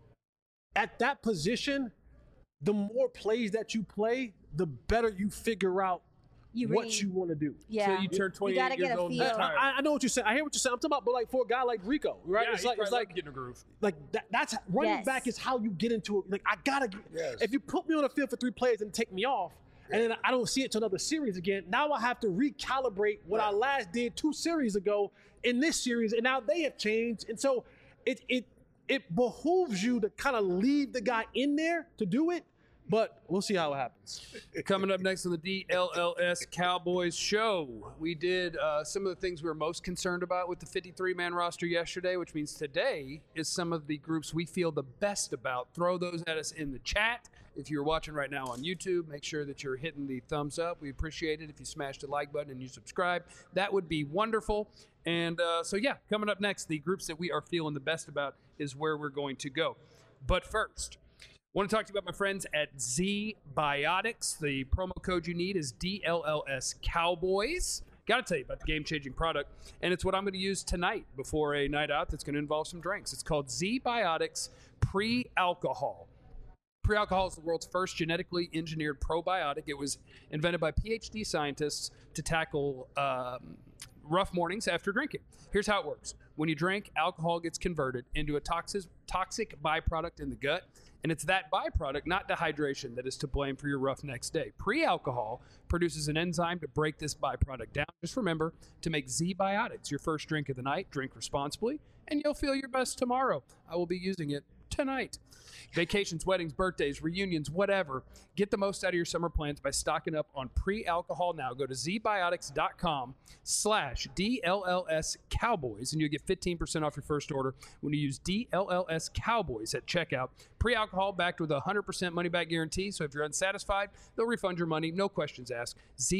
at that position, the more plays that you play, the better you figure out what you want to do. Yeah. So you turn 28 years old and feel. I know what you're saying. I hear what you're saying. I'm talking about, but like for a guy like Rico, right? Yeah, it's like getting a groove. Like that's running Yes. back is how you get into it. Like I gotta. Yes. If you put me on the field for 3 plays and take me off, and then I don't see it to another series again, now I have to recalibrate what I last did 2 series ago in this series, and now they have changed, and so it behooves you to kind of leave the guy in there to do it. But we'll see how it happens. Coming up next on the DLLS Cowboys show, we did some of the things we were most concerned about with the 53-man roster yesterday, which means today is some of the groups we feel the best about. Throw those at us in the chat. If you're watching right now on YouTube, make sure that you're hitting the thumbs up. We appreciate it if you smash the like button and you subscribe. That would be wonderful. And coming up next, the groups that we are feeling the best about is where we're going to go. But first, I want to talk to you about my friends at Z Biotics. The promo code you need is DLLS Cowboys. Got to tell you about the game-changing product, and it's what I'm going to use tonight before a night out that's going to involve some drinks. It's called Z Biotics Pre-Alcohol. Pre-alcohol is the world's first genetically engineered probiotic. It was invented by PhD scientists to tackle rough mornings after drinking. Here's how it works. When you drink, alcohol gets converted into a toxic byproduct in the gut, and it's that byproduct, not dehydration, that is to blame for your rough next day. Pre-alcohol produces an enzyme to break this byproduct down. Just remember to make Z Biotics your first drink of the night. Drink responsibly, and you'll feel your best tomorrow. I will be using it tonight. Vacations, weddings, birthdays, reunions, whatever. Get the most out of your summer plans by stocking up on pre-alcohol now. Go to zbiotics.com/DLLS Cowboys and you'll get 15% off your first order when you use DLLS Cowboys at checkout. Pre-alcohol backed with a 100% money back guarantee. So if you're unsatisfied, they'll refund your money. No questions asked.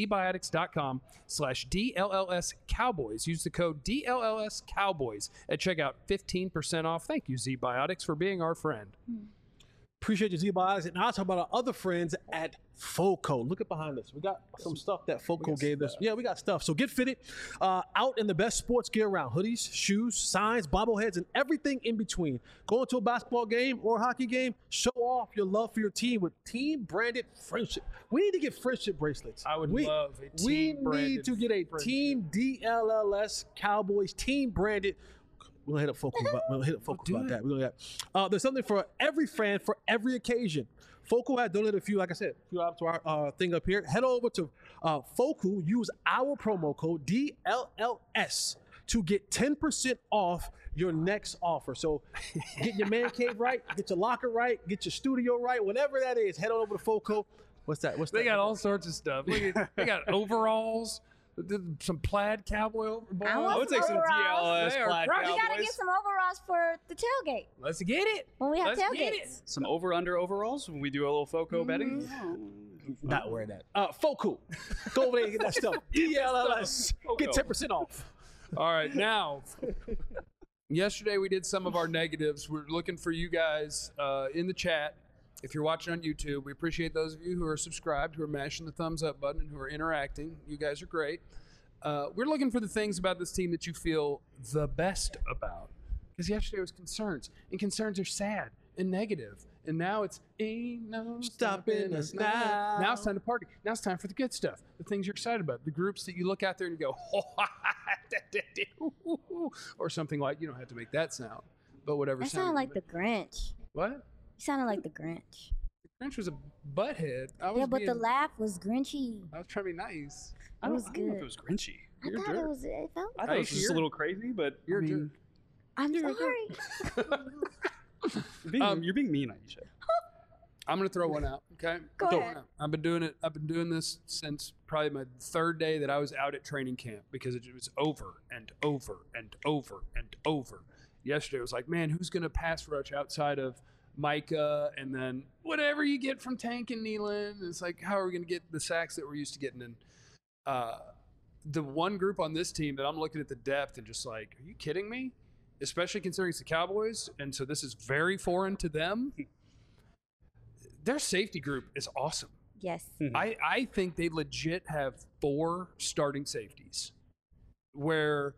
zbiotics.com/DLLS Cowboys. Use the code DLLS Cowboys at checkout. 15% off. Thank you, Z Biotics, for being our friend. Appreciate you, Z Biotics. And now I'll talk about our other friends at FOCO. Look at behind us. We got some stuff that FOCO gave us. Yeah, we got stuff. So get fitted out in the best sports gear around. Hoodies, shoes, signs, bobbleheads, and everything in between. Go into a basketball game or a hockey game. Show off your love for your team with team-branded friendship. We need to get friendship bracelets. I would love a team-branded We need to get a friendship. Team DLLS Cowboys team-branded. We're going to hit a Focal about that. We're gonna there's something for every fan for every occasion. Focal has donated a few, like I said, a few items to our thing up here. Head over to Focal. Use our promo code DLLS to get 10% off your next offer. So get your man cave right, get your locker right, get your studio right, whatever that is. Head on over to Focal. What's that? They got all sorts of stuff. They got overalls, some plaid cowboy overalls. I would take some DLLS They are plaid crushed. We gotta Cowboys. get some overalls for the tailgate Let's get it. when we have Let's get it. tailgates. Some over-under overalls when we do a little FOCO betting. Not wearing that. Focal. Go over there and get that stuff. DLLS. Get 10% off. All right, now, yesterday we did some of our negatives. We're looking for you guys in the chat. If you're watching on YouTube, we appreciate those of you who are subscribed, who are mashing the thumbs up button, and who are interacting. You guys are great. We're looking for the things about this team that you feel the best about. Because yesterday was concerns, and concerns are sad and negative, And now it's ain't no Stopping us now. Now it's time to party. Now it's time for the good stuff, the things you're excited about, the groups that you look out there and you go, or something like, you don't have to make that sound, but whatever. That sounded like the Grinch. What? You sounded like the Grinch. Grinch was a butthead. Yeah, but the laugh was Grinchy. I was trying to be nice. It was I don't know if good. it was Grinchy. I You're a thought jerk. it was. It felt. I thought it was just a little crazy, but You're I a jerk. mean, I'm You're a sorry. you're being mean, Aisha. I'm gonna throw one out. Okay. Go Throw ahead. one out. I've been doing this since probably my third day that I was out at training camp because it was over and over and over and over. Yesterday it was like, man, who's gonna pass rush outside of Micah and then whatever you get from Tank and Nealon? It's like, how are we gonna get the sacks that we're used to getting in? The one group on this team that I'm looking at the depth and just like, are you kidding me? Especially considering it's the Cowboys, and so this is very foreign to them. Their safety group is awesome. Yes. I think they legit have 4 starting safeties where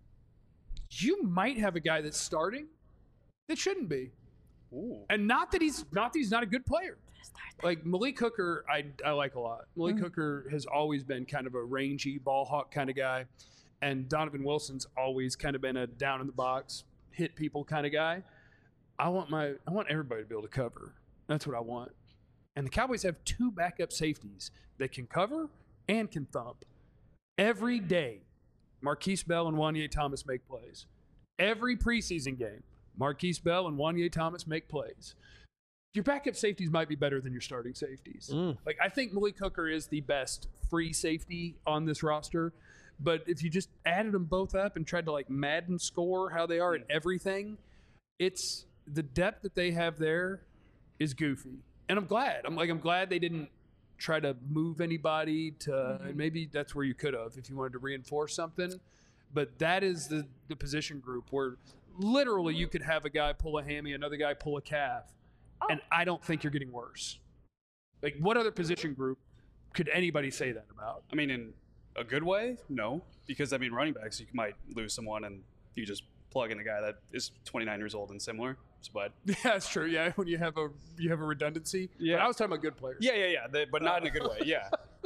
you might have a guy that's starting that shouldn't be. Ooh. And not that he's not a good player. Like Malik Hooker, I like a lot. Malik Hooker has always been kind of a rangy ball hawk kind of guy. And Donovan Wilson's always kind of been a down in the box, hit people kind of guy. I want everybody to be able to cover. That's what I want. And the Cowboys have 2 backup safeties that can cover and can thump. Every day, Marquise Bell and Wanye Thomas make plays. Every preseason game, Marquise Bell and Wanye Thomas make plays. Your backup safeties might be better than your starting safeties. Like, I think Malik Hooker is the best free safety on this roster. But if you just added them both up and tried to like Madden score how they are at everything, it's the depth that they have there is goofy. And I'm glad. I'm glad they didn't try to move anybody to, and maybe that's where you could have if you wanted to reinforce something. But that is the position group where literally you could have a guy pull a hammy, another guy pull a calf, and I don't think you're getting worse. Like, what other position group could anybody say that about? I mean, in a good way, no, because I mean, running backs, you might lose someone and you just plug in a guy that is 29 years old and similar. But Yeah, that's true. Yeah, when you have a redundancy. Yeah. But I was talking about good players. yeah, but not in a good way. Yeah.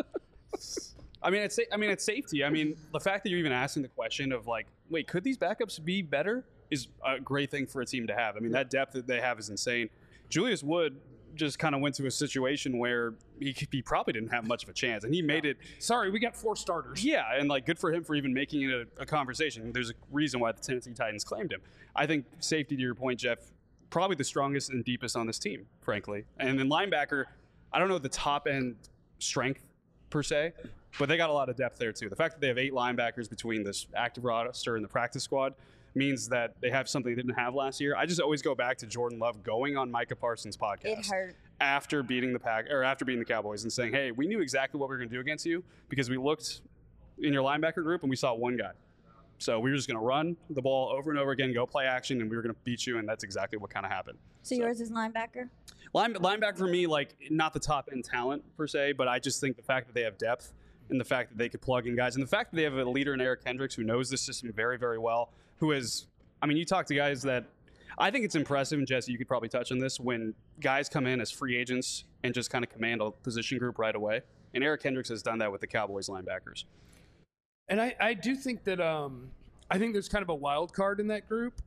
I mean, it's safety. I mean, the fact that you're even asking the question of like, wait, could these backups be better is a great thing for a team to have. I mean, that depth that they have is insane. Julius Wood just kind of went to a situation where he probably didn't have much of a chance, and he made it. Sorry, we got 4 starters. Yeah, and like good for him for even making it a conversation. There's a reason why the Tennessee Titans claimed him. I think safety, to your point, Jeff, probably the strongest and deepest on this team, frankly. And then linebacker, I don't know the top end strength per se, but they got a lot of depth there too. The fact that they have 8 linebackers between this active roster and the practice squad means that they have something they didn't have last year. I just always go back to Jordan Love going on Micah Parsons' podcast. It hurt. After beating the Cowboys and saying, hey, we knew exactly what we were going to do against you because we looked in your linebacker group and we saw one guy. So we were just going to run the ball over and over again, go play action, and we were going to beat you, and that's exactly what kind of happened. So yours is linebacker? Linebacker for me, like, not the top end talent per se, but I just think the fact that they have depth and the fact that they could plug in guys and the fact that they have a leader in Eric Kendricks who knows the system very, very well, who is, I mean, you talk to guys that I think it's impressive, and Jesse, you could probably touch on this, when guys come in as free agents and just kind of command a position group right away. And Eric Kendricks has done that with the Cowboys linebackers. And I do think that I think there's kind of a wild card in that group.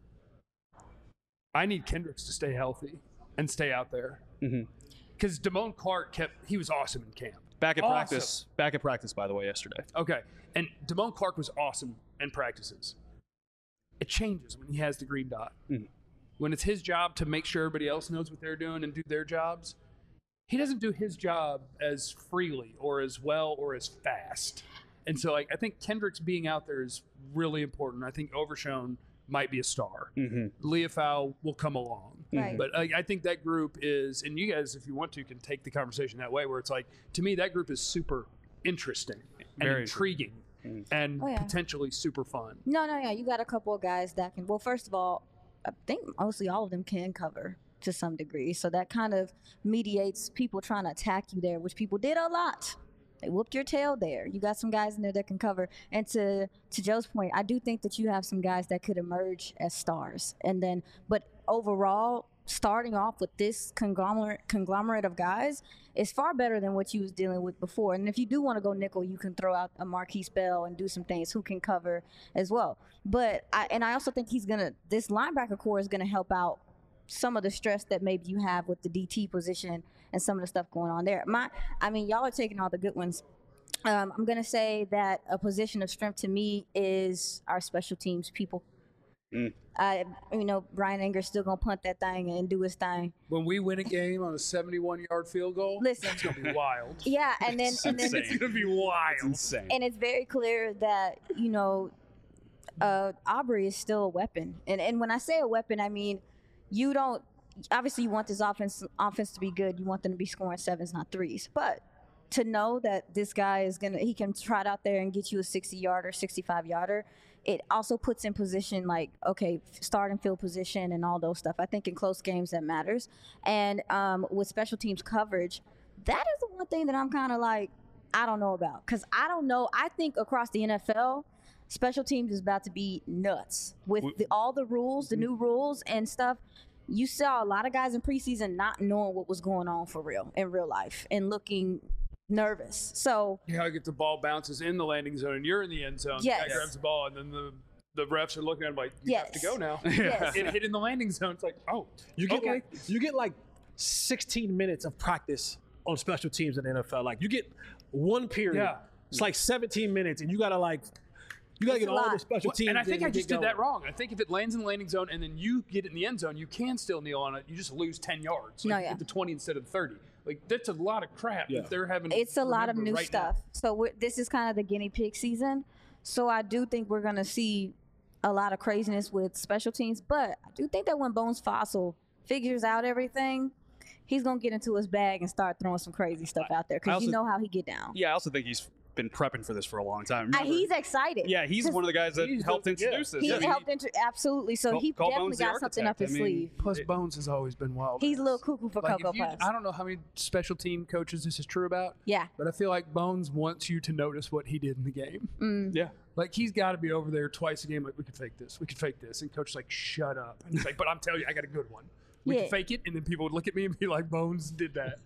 I need Kendricks to stay healthy and stay out there. Because Damone Clark he was awesome in camp. Back at practice, by the way, yesterday. Okay. And Damone Clark was awesome in practices. It changes when he has the green dot. When it's his job to make sure everybody else knows what they're doing and do their jobs, he doesn't do his job as freely or as well or as fast. And so, like, I think Kendricks being out there is really important. I think Overshown might be a star. Leofau will come along. Right. But I think that group is, and you guys, if you want to, can take the conversation that way, where it's like, to me, that group is super interesting and Very intriguing and potentially super fun. No. You got a couple of guys that can. Well, first of all, I think mostly all of them can cover to some degree. So that kind of mediates people trying to attack you there, which people did a lot. They whooped your tail there. You got some guys in there that can cover. And to Joe's point, I do think that you have some guys that could emerge as stars. And then, but overall, starting off with this conglomerate of guys is far better than what you was dealing with before. And if you do want to go nickel, you can throw out a Marquise Bell and do some things who can cover as well. But I also think this linebacker core is gonna help out some of the stress that maybe you have with the DT position and some of the stuff going on there. Y'all are taking all the good ones. I'm gonna say that a position of strength to me is our special teams people. Brian Enger's still gonna punt that thing and do his thing. When we win a game on a 71-yard field goal, Listen, it's gonna be wild. Yeah, and then It's gonna be wild. It's insane. and it's very clear that Aubrey is still a weapon. And when I say a weapon, I mean you don't. Obviously, you want this offense to be good. You want them to be scoring 7s, not 3s. But to know that this guy he can trot out there and get you a 60-yarder, 65-yarder. It also puts in position start and field position and all those stuff. I think in close games that matters. And with special teams coverage, that is the one thing that I'm kind of like, I don't know about. Because I don't know. I think across the NFL, special teams is about to be nuts with all the rules, the new rules and stuff. You saw a lot of guys in preseason not knowing what was going on for real in real life and looking nervous. So You get the ball bounces in the landing zone and you're in the end zone. Yes. The guy grabs the ball and then the refs are looking at him like, you have to go now. Yes. It hit in the landing zone. It's like, oh, You get okay. you get like 16 minutes of practice on special teams in the NFL. Like you get one period. Yeah. It's like 17 minutes, and you gotta get a all lot. the special teams. And I think in I just get did that going. wrong. I think if it lands in the landing zone and then you get it in the end zone, you can still kneel on it. You just lose 10 yards. No, You yeah. get the 20 instead of 30. Like, that's a lot of crap Yeah. that they're having. it's a lot of remember new right stuff. now. So this is kind of the guinea pig season. So I do think we're going to see a lot of craziness with special teams. But I do think that when Bones Fossil figures out everything, he's going to get into his bag and start throwing some crazy stuff out there I because also- you know how he get down. Yeah, I also think he's been prepping for this for a long time. Remember- He's excited. yeah, he's one of the guys that he's helped the- introduce this. He I mean, helped absolutely. So he Call definitely Bones the got something up architect. his I mean, sleeve. Plus, Bones has always been wild. He's a little cuckoo for Like, Cocoa Puffs. I don't know how many special team coaches this is true about, Yeah. but I feel like Bones wants you to notice what he did in the game. yeah. Like, he's got to be over there twice a game. Like, we could fake this. We could fake this. And coach is like, shut up. And he's like, but I'm telling you, I got a good one. We Yeah. can fake it. And then people would look at me and be like, Bones did that.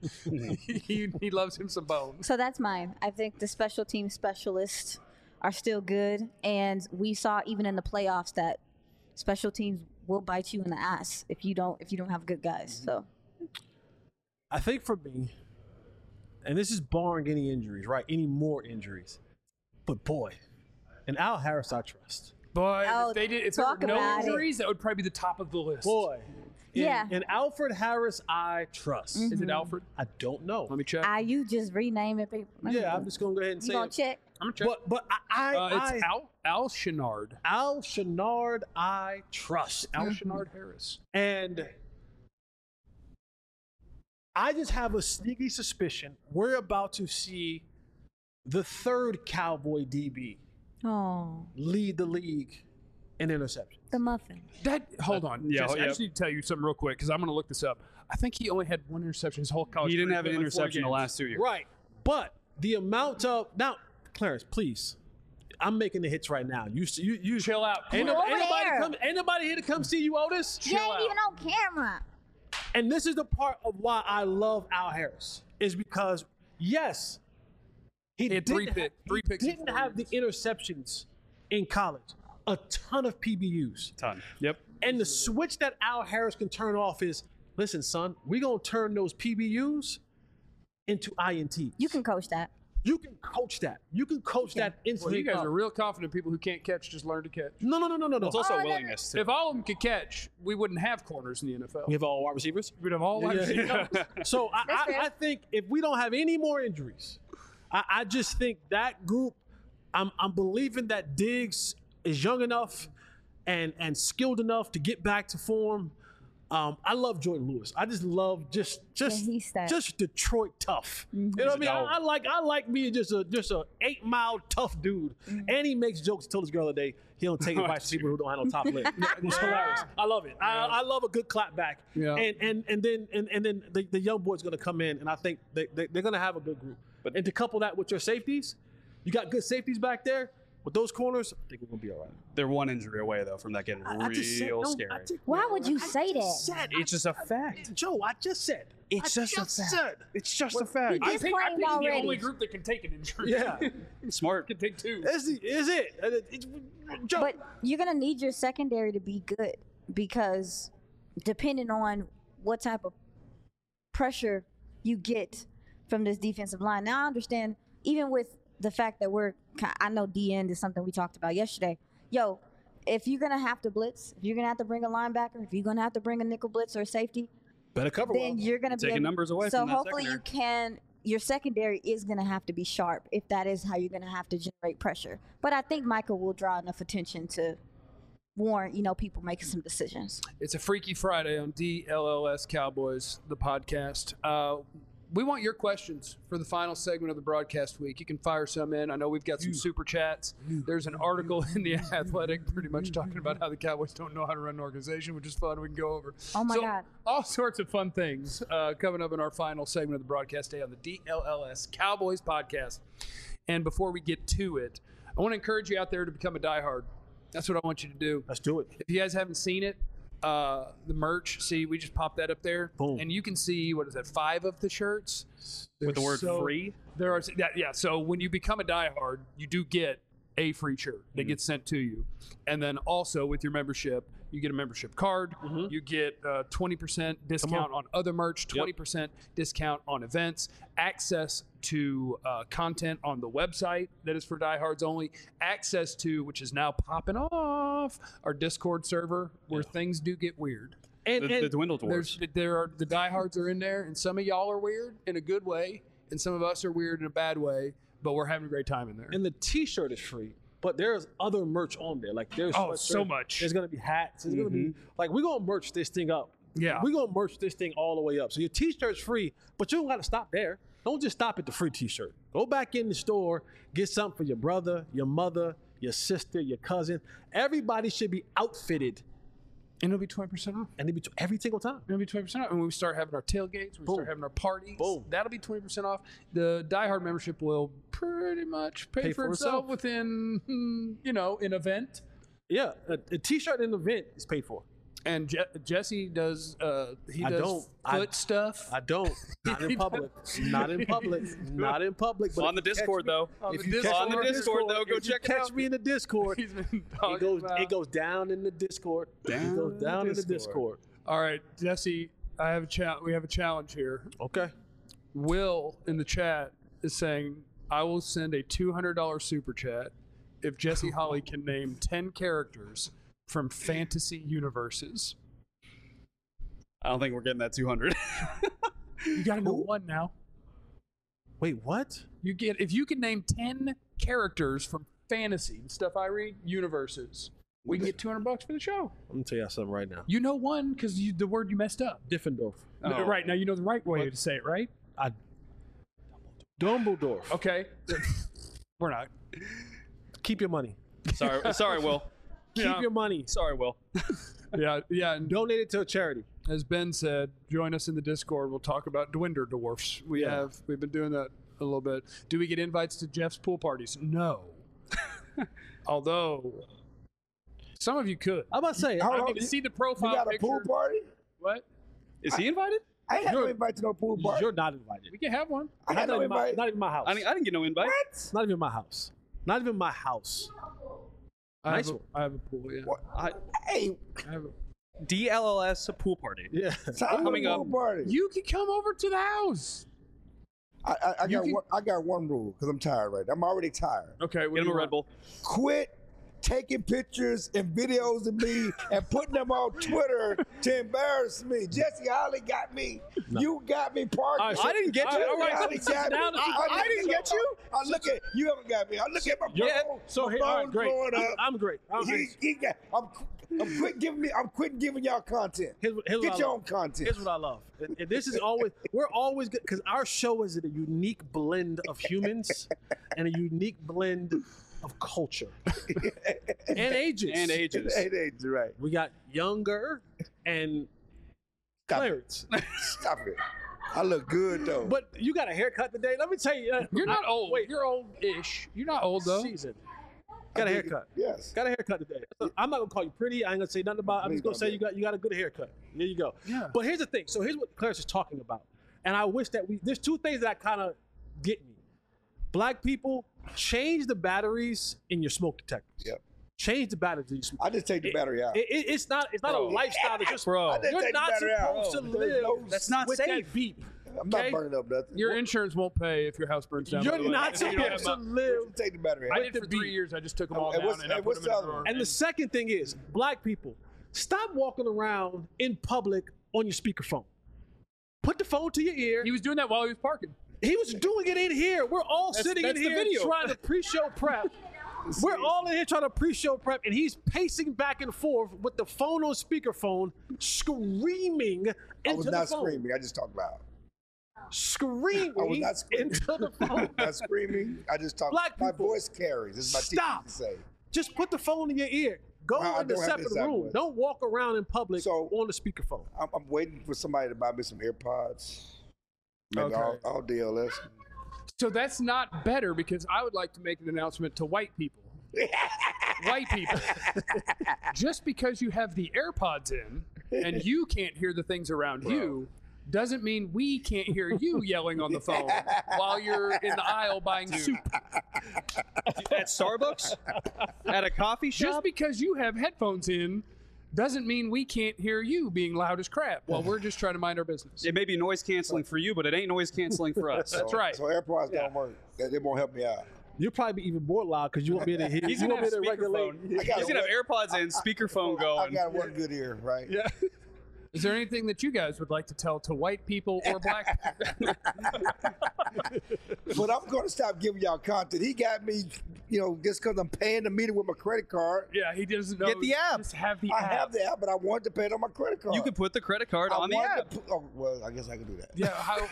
he loves him some Bones. So that's mine. I think the special team specialists are still good, and we saw even in the playoffs that special teams will bite you in the ass if you don't have good guys. So I think for me, and this is barring any injuries, right? Any more injuries. But boy, and Al Harris I trust. But Oh, if there were talk no about it. injuries, that would probably be the top of the list. Boy. Yeah. And Alfred Harris I trust. Is it Alfred? I don't know. Let me check. you just renaming people. Yeah, I'm just gonna go ahead and You say gonna it. check? I'm going to check. But It's Al Chenard. Al Chenard I trust. Al Chenard Harris. And I just have a sneaky suspicion we're about to see the third Cowboy DB Oh, lead the league in interceptions. the muffin. Hold on. yeah, Jesse, I yeah. just need to tell you something real quick because I'm going to look this up. I think he only had one interception his whole college He didn't career. have an He played, like, 4 interception the games. last 2 years. Right. But the amount of now, Clarence, please. I'm making the hits right now. You Chill out. Ain't, Over ain't nobody here to come see you, Otis. You ain't even on camera. And this is the part of why I love Al Harris is because yes, he had three didn't picks he in didn't 4 have the interceptions in college. A ton of PBUs. Ton. Yep. And the switch that Al Harris can turn off is, listen, son, we're going to turn those PBUs into INTs. You can coach that. You can coach that. You can coach that Well, instantly. you guys are real confident people who can't catch just learn to catch. No. It's also Oh, no, no. willingness too. If all of them could catch, we wouldn't have corners in the NFL. We have all wide receivers. We'd have all wide receivers. So That's fair. I think if we don't have any more injuries, I just think that group, I'm believing that Diggs is young enough and skilled enough to get back to form. I love Jordan Lewis. I just love just he's that. just Detroit tough. You know what I mean? I like me just a 8-mile tough dude. And he makes jokes. I told this girl the other day he don't take advice from people who don't have no top lip. It's hilarious. I love it. I love a good clap back. Yeah. And then the young boy's gonna come in, and I think they're gonna have a good group. And to couple that with your safeties, you got good safeties back there. with those corners, I think we're gonna be all right. They're one injury away though from that getting real scary. Why would you say that? It's just a fact. Joe, I just said. It's just a fact. It's just a fact. He I think the already. only group that can take an injury. Yeah. Smart. Can take two. Is it? Joe. But you're gonna need your secondary to be good because depending on what type of pressure you get from this defensive line. Now I understand, even with the fact that I know D end is something we talked about yesterday. Yo, if you're gonna have to blitz, if you're gonna have to bring a linebacker, if you're gonna have to bring a nickel blitz or a safety, better cover then you're gonna be taking numbers away so from that hopefully secondary. your secondary is going to have to be sharp if that is how you're going to have to generate pressure. But I think Michael will draw enough attention to warrant, people making some decisions. It's a Freaky Friday on DLLS Cowboys, the podcast. We want your questions for the final segment of the broadcast week. You can fire some in. I know we've got some super chats. There's an article in The Athletic pretty much talking about how the Cowboys don't know how to run an organization, which is fun. We can go over. Oh, my God. All sorts of fun things coming up in our final segment of the broadcast day on the DLLS Cowboys podcast. And before we get to it, I want to encourage you out there to become a diehard. That's what I want you to do. Let's do it. If you guys haven't seen it, the merch, see, we just popped that up there. Boom. And you can see, 5 of the shirts? With the word So- free? There are, yeah. So when you become a diehard, you do get a free shirt that gets sent to you. And then also with your membership, you get a membership card. You get 20% discount on other merch, 20% discount on events, access to content on the website that is for diehards only, access to, which is now popping off, our Discord server where things do get weird. And The Dwindle Dwarfs. The diehards are in there, and some of y'all are weird in a good way, and some of us are weird in a bad way, but we're having a great time in there. and the T-shirt is free, but there's other merch on there. Like there's Oh, sweatshirts, so much. There's gonna be hats. There's gonna be we're gonna merch this thing up. Yeah. We're gonna merch this thing all the way up. So your T-shirt's free, but you don't gotta stop there. Don't just stop at the free T-shirt. Go back in the store, get something for your brother, your mother, your sister, your cousin. Everybody should be outfitted, And it'll be 20% off. and they be every single time. It'll be 20% off. And when we start having our tailgates, when we start having our parties, Boom. that'll be 20% off. The diehard membership will pretty much pay for itself within, an event. Yeah, a T-shirt in the event is paid for. And Jesse does, he I does don't. foot stuff. I don't. Not in public. Not in public. Not in public. But On the if you catch Discord, me- though. If you catch On me the Discord, though, go if you check it catch out. me in the Discord. He's been It talking goes. about. It goes down in the Discord. Down It goes down in the Discord. All right, Jesse, we have a challenge here. Okay. Will in the chat is saying, I will send a $200 super chat if Jesse Holly can name 10 characters from fantasy universes. I don't think we're getting that 200. You got to know one now. Wait, what? If you can name 10 characters from fantasy, the stuff I read, universes, we can get $200 for the show. I'm gonna tell you something right now. You know one because the word you messed up. Diffendorf. Oh. Right, now you know the right way to say it, right? Dumbledore. Okay. We're not. Keep your money. Sorry, Will. Keep Yeah. your money. Sorry, Will. Yeah, and Donate it to a charity. as Ben said, join us in the Discord. We'll talk about Dwinder Dwarfs. We've been doing that a little bit. Do we get invites to Jeff's pool parties? No. Although some of you could. I'm about to say. Hold I on, mean, to see the profile You got a picture. pool party? What? Is he invited? I ain't had no You're- invite to no pool party. You're not invited. We can have one. I had no invite. Not even my house. I didn't get no invite. What? Not even my house. Not even my house. Nice one. I have a pool, yeah. What? I, Hey, I have a, DLLS pool party. Yeah. time Coming pool up. party. you can come over to the house. I got one rule because I'm tired right now. I'm already tired. Okay, Get him a Red Bull. Quit taking pictures and videos of me and putting them on Twitter to embarrass me. Jesse Holly got me. You got me parked. All right, so- I didn't get you. Jesse All right, Holly so got me. now that you- I didn't get you? I look at you. Haven't got me. I look at my Yeah. phone. So my here, all right, phone's great. blowing up. I'm great. I'm quitting giving y'all content. Here's what Get I your love. own content. Here's what I love. And this is always, we're always good because our show is a unique blend of humans and a unique blend of culture and ages. And ages. Hey, right. We got younger and Stop it. Clarence. Stop it. I look good though. But you got a haircut today. Let me tell you. You're not old. Wait. You're old-ish. You're not old, though. Season. Got a haircut. Yes. Got a haircut today. I'm not gonna call you pretty. I ain't gonna say nothing about it. I'm just gonna say you got a good haircut. Here you go. Yeah. But here's the thing. So here's what Clarence is talking about. And I wish that there's two things that kind of get me. Black people, change the batteries in your smoke detectors. Yep. Change the batteries in your smoke. I just take the battery out. It's not a lifestyle that just I just you're take the not battery out. supposed to There's live no- That's not with safe. that beep. I'm not okay? burning up nothing. Your insurance won't pay if your house burns down. by You're the way. not If you don't have supposed to my- live. Take the battery I out. did for 3 years. I just took them all And down what's- and I and put what's them in the a other drawer. one? And the second thing is, black people, stop walking around in public on your speakerphone. Put the phone to your ear. He was doing that while he was parking. He was doing it in here. We're all sitting that's in the here video. trying to pre-show prep. We're all in here trying to pre-show prep, and he's pacing back and forth with the phone on speakerphone, screaming into I was the not phone. screaming. I just talked loud. Screaming I was not screaming. into the phone. Not screaming. I just talked. Black My people, voice carries. This is my stop. teacher to say. Just put the phone in your ear. Go I in the don't have separate this that room. way. Don't walk around in public So- on the speakerphone. I'm waiting for somebody to buy me some AirPods. Maybe Okay. all DLS. So that's not better because I would like to make an announcement to white people. White people. Just because you have the AirPods in and you can't hear the things around you doesn't mean we can't hear you yelling on the phone while you're in the aisle buying soup. At Starbucks? At a coffee shop? Just because you have headphones in doesn't mean we can't hear you being loud as crap while we're just trying to mind our business. It may be noise canceling for you, but it ain't noise canceling for us. That's right. So AirPods don't work. They won't help me out. You'll probably be even more loud because you won't be able to hear. He's you gonna won't have be able to regulate. speakerphone. He's gonna have AirPods in, speakerphone I going. got one good ear, right? Yeah. Is there anything that you guys would like to tell to white people or black people? But I'm going to stop giving y'all content. He got me, just because I'm paying the meter with my credit card. Yeah, he doesn't know. Get the app. Just have the I app. have the app, but I wanted to pay it on my credit card. You could put the credit card on the app. Well, I guess I could do that. Yeah.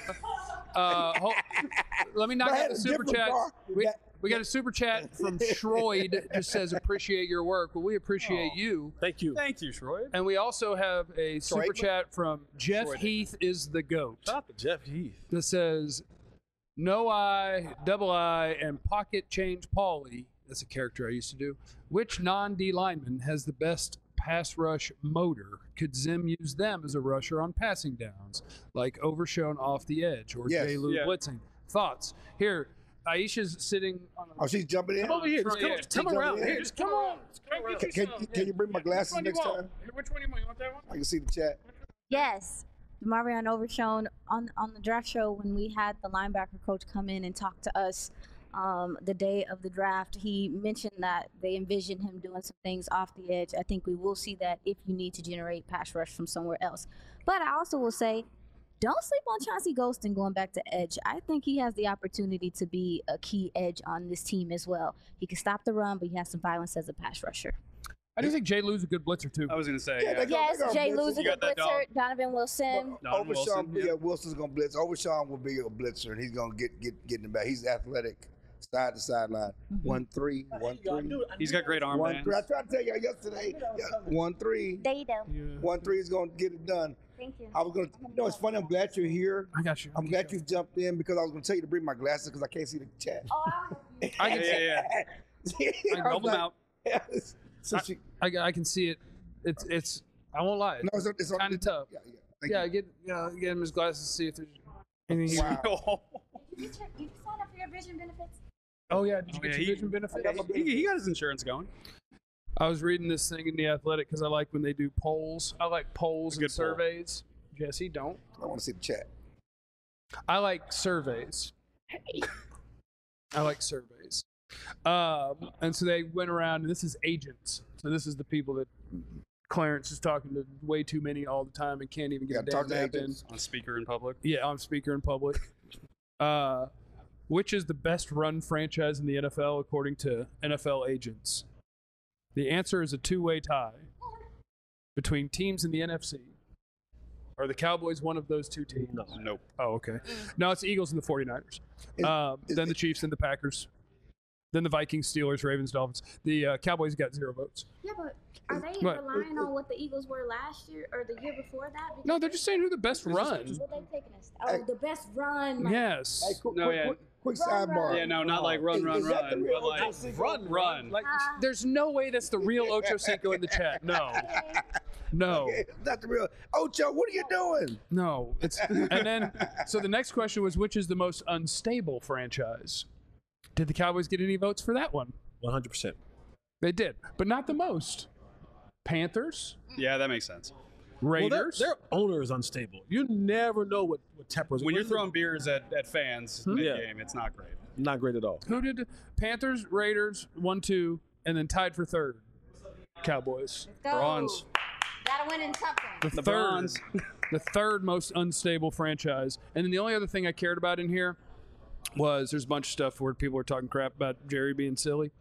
Let me knock But I out had the a super different chat. car. We got a super chat from Shroyd. Just says appreciate your work. Well, we appreciate you. Thank you. Thank you, Troy. And we also have a super Shroyd? chat from Jeff Shroyd. Heath is the goat. Shout out to Jeff Heath. That says no I, double I, and pocket change Paulie. That's a character I used to do. Which non-D lineman has the best pass rush motor? Could Zim use them as a rusher on passing downs, like Overshown off the edge or Yes. J. Lou Yeah. blitzing? Thoughts? Here, Aisha's sitting on a Oh, she's jumping in? Come over here. Just come, Yeah, just come take around. over Here, here. just come on. Can you bring my glasses next time? Which one do you want? You want that one? I can see the chat. Yes. Marion Overshown on the draft show when we had the linebacker coach come in and talk to us the day of the draft. He mentioned that they envision him doing some things off the edge. I think we will see that if you need to generate pass rush from somewhere else. But I also will say, don't sleep on Chauncey Golston going back to edge. I think he has the opportunity to be a key edge on this team as well. He can stop the run, but he has some violence as a pass rusher. I do think J. Lou's a good blitzer too. I was gonna say, Yeah, yeah. they go- Yes, they Jay blitz. Lou's a You got good that blitzer. Donovan Wilson. Don Wilson, Overshawn, yeah. Wilson's gonna blitz. Overshawn will be a blitzer, and he's gonna get in the back. He's athletic, side to sideline. 1-3, 1-3. He's got great arm 1-3. I bands. tried to tell y'all yesterday. 1-3. There you go. 1-3 is gonna get it done. Thank you. I was gonna. It's funny. I'm glad you're here. I got you. I'm glad you jumped in because I was gonna tell you to bring my glasses because I can't see the chat. I can, Yeah. Roll them out. So she, I can see it. It's. I won't lie. no, it's Kind of tough. Yeah, yeah. Thank Yeah, you. get him his glasses to see if there's anything. He, Wow. Did you sign up for your vision benefits? oh yeah, did you Oh, get yeah, your he- vision benefit? He got his insurance going. I was reading this thing in the Athletic because I like when they do polls. I like polls and Good poll. surveys. Jesse, don't. I want to see the chat. I like surveys. I like surveys. And so they went around, and this is agents. So this is the people that Clarence is talking to way too many all the time and can't even You get a got to talk damn to nap in. agents. On speaker in public. Yeah, I'm speaker in public. Which is the best run franchise in the NFL according to NFL agents? The answer is a two-way tie between teams in the NFC. Are the Cowboys one of those two teams? No. Nope. Oh, okay. No, it's the Eagles and the 49ers. Then the Chiefs and the Packers. Then the Vikings, Steelers, Ravens, Dolphins. The Cowboys got 0 votes. Yeah, but are they What? relying on what the Eagles were last year or the year before that? Because No, they're just saying who the best run. what they taking us. Oh, the best run. Like, Yes. Hey, No, yeah. Quick Run, sidebar. run. Yeah, no, not like run, Is that the run, real but like Ocho Cinco? run. Like, there's no way that's the real Ocho Cinco in the chat. No, no, Okay, not the real Ocho. What are you doing? no. It's and then so the next question was, which is the most unstable franchise? Did the Cowboys get any votes for that one? 100%. They did, but not the most. Panthers, Yeah, that makes sense. Raiders. Well, their owner is unstable. You never know what tempers. When you're throwing beers at fans mid-game, it's not great. not great at all. Who did Panthers, Raiders, 1-2, and then tied for third? Cowboys. Go. Bronze. Gotta win in something. The The third, Bronze. the third most unstable franchise. And then the only other thing I cared about in here was there's a bunch of stuff where people were talking crap about Jerry being silly.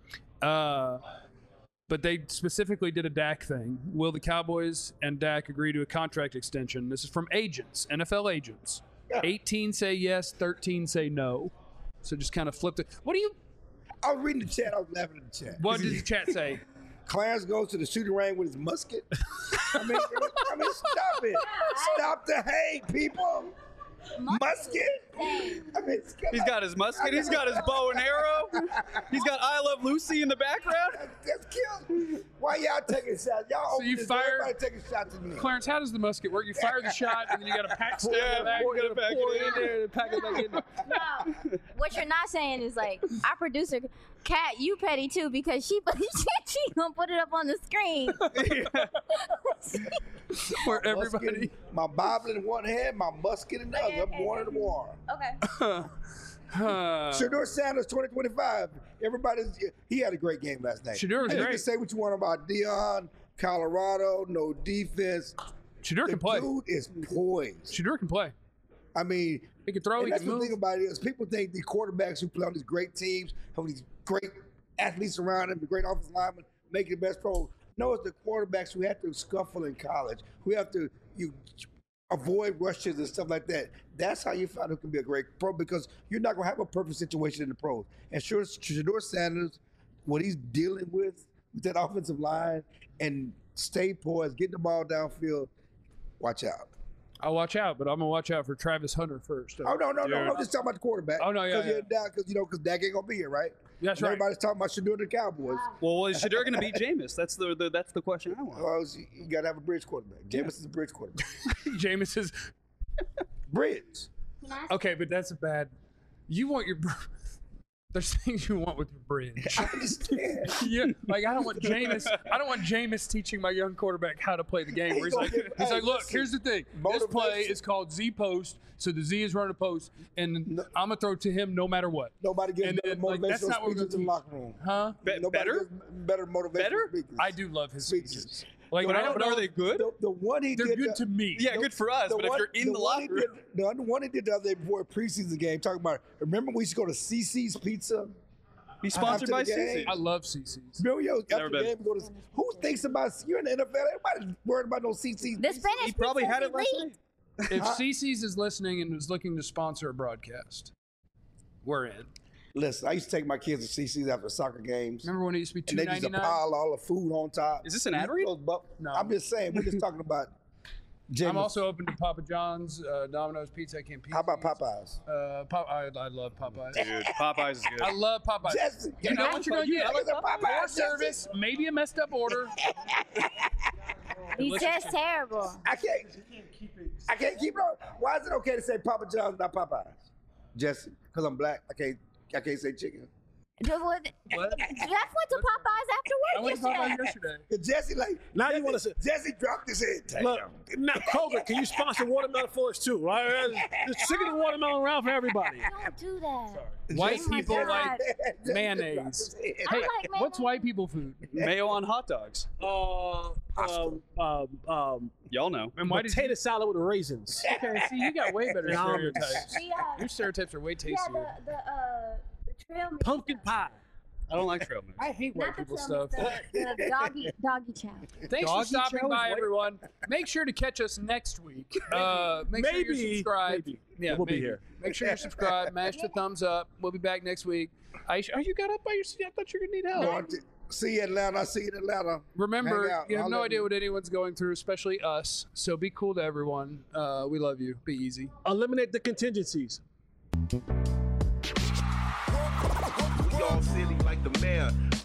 But they specifically did a Dak thing. Will the Cowboys and Dak agree to a contract extension? This is from agents, NFL agents. 18 say yes, 13 say no. So just kind of flipped it. What do you? I was reading the chat. I was laughing at the chat. What did the chat say? Clarence goes to the shooting range with his musket. I mean, stop it. Stop the hate, people. Musket? I mean, He's got his musket. He's got his bow and arrow. He's got I Love Lucy in the background. That's killed. Why y'all taking shots? Y'all So you open this, fire- everybody taking shots at me. Clarence, how does the musket work? You fire the shot, and then you got to pack stuff Yeah, in the back. you gotta pack pour it in there and pack it back in. No, what you're not saying is like our producer, Kat, you petty too because she gonna put it up on the screen. Where Musket, everybody. my Bible in one hand, my musket in the other. I'm going to the war. Okay. Shedeur Sanders, 2025. He had a great game last night. Shedeur was You great. can say what you want about Deion, Colorado, no defense. Shedeur The can play. dude is poised. Shedeur can play. I mean, He can throw. and He that's can the move. thing about it is people think the quarterbacks who play on these great teams, have these great athletes around them, the great offensive linemen, make the best pro. No, it's the quarterbacks who have to scuffle in college, who have to avoid rushes and stuff like that. That's how you find who can be a great pro because you're not going to have a perfect situation in the pros. And sure, Shedeur Sanders, what he's dealing with that offensive line and stay poised, getting the ball downfield, watch out. I'll watch out, but I'm gonna watch out for Travis Hunter first. Oh, no. I'm just talking about the quarterback. Oh, no, yeah, Because Dak ain't going to be here, right? That's And right. Everybody's talking about Shedeur the Cowboys. Well, is Shedeur going to beat Jameis? That's the question I want. Well, you got to have a bridge quarterback. Jameis is a bridge quarterback. Jameis is Bridge. okay, but that's a bad. You want your. There's things you want with your bridge. I understand. Yeah, like I don't want Jameis teaching my young quarterback how to play the game. Where he's like, look, listen, here's the thing. This play motivation. is called Z post, so the Z is running a post, and I'm gonna throw to him no matter what. Nobody gets And better then, like, that's motivational not what we're speeches in the gonna locker room. Huh? Nobody Better? gets better motivational Better? speakers. I do love his Speeches. speeches. Like But I don't know. are they good? The one he They're did good to me. Yeah, good for us. But if you're in the locker room, the one he did the other day before a preseason game, talking about, remember we used to go to CC's Pizza? he's sponsored by After the game. CC. I love CC's. Remember, Never after the been. game, we go to, who thinks about, you're in the NFL, everybody's worried about no CC's The Pizza. Spanish He probably pizza had is it last elite. night. If CC's is listening and is looking to sponsor a broadcast, we're in. Listen, I used to take my kids to CC's after soccer games. Remember when it used to be And they used to $2.99? pile all the food on top. Is this an ad read? No. I'm just saying, we're just talking about Jameis. I'm also open to Papa John's, Domino's Pizza, King Pizza. How about Popeyes? I love Popeyes. Dude, Popeyes is good. I love Popeyes. Jesse, You know what you're gonna get? I like the More Popeyes, service, maybe a messed up order. He says terrible. I can't keep it on. Why is it okay to say Papa John's, not Popeyes? Jesse, because I'm black. I can't say chicken. Jeff went to Popeyes after I work went to Popeyes yesterday. yesterday. And Jesse, Now you wanna say- Jesse dropped his head. Damn. Look, now Kroger, can you sponsor watermelon for us too? Right? There's chicken and watermelon around for everybody. Don't do that. White Oh my people God. like Jesse mayonnaise. dropped his head. I Hey, like what's mayonnaise. white people food? Mayo on hot dogs. Y'all know. And why did Potato salad with raisins. Okay, see, you got way better And almonds. stereotypes. Yeah, Your stereotypes are way tastier. the trail mix. Pumpkin pie. I don't like trail mix. I hate white Not the people trail stuff. mix, the doggy chow. Thanks for Doggy stopping chow is by, white? everyone. Make sure to catch us next week. Make sure you're Maybe. subscribed. Maybe. Yeah, We'll be maybe. here. Make sure you're subscribed. Mash the thumbs up. We'll be back next week. Aisha, oh, you got up by your seat. I thought you were going to need help. See you in Atlanta. See you in Atlanta. Remember, Hang out. you have I'll no let idea you- what anyone's going through, especially us. So be cool to everyone. We love you. Be easy. Eliminate the contingencies. city like the mayor.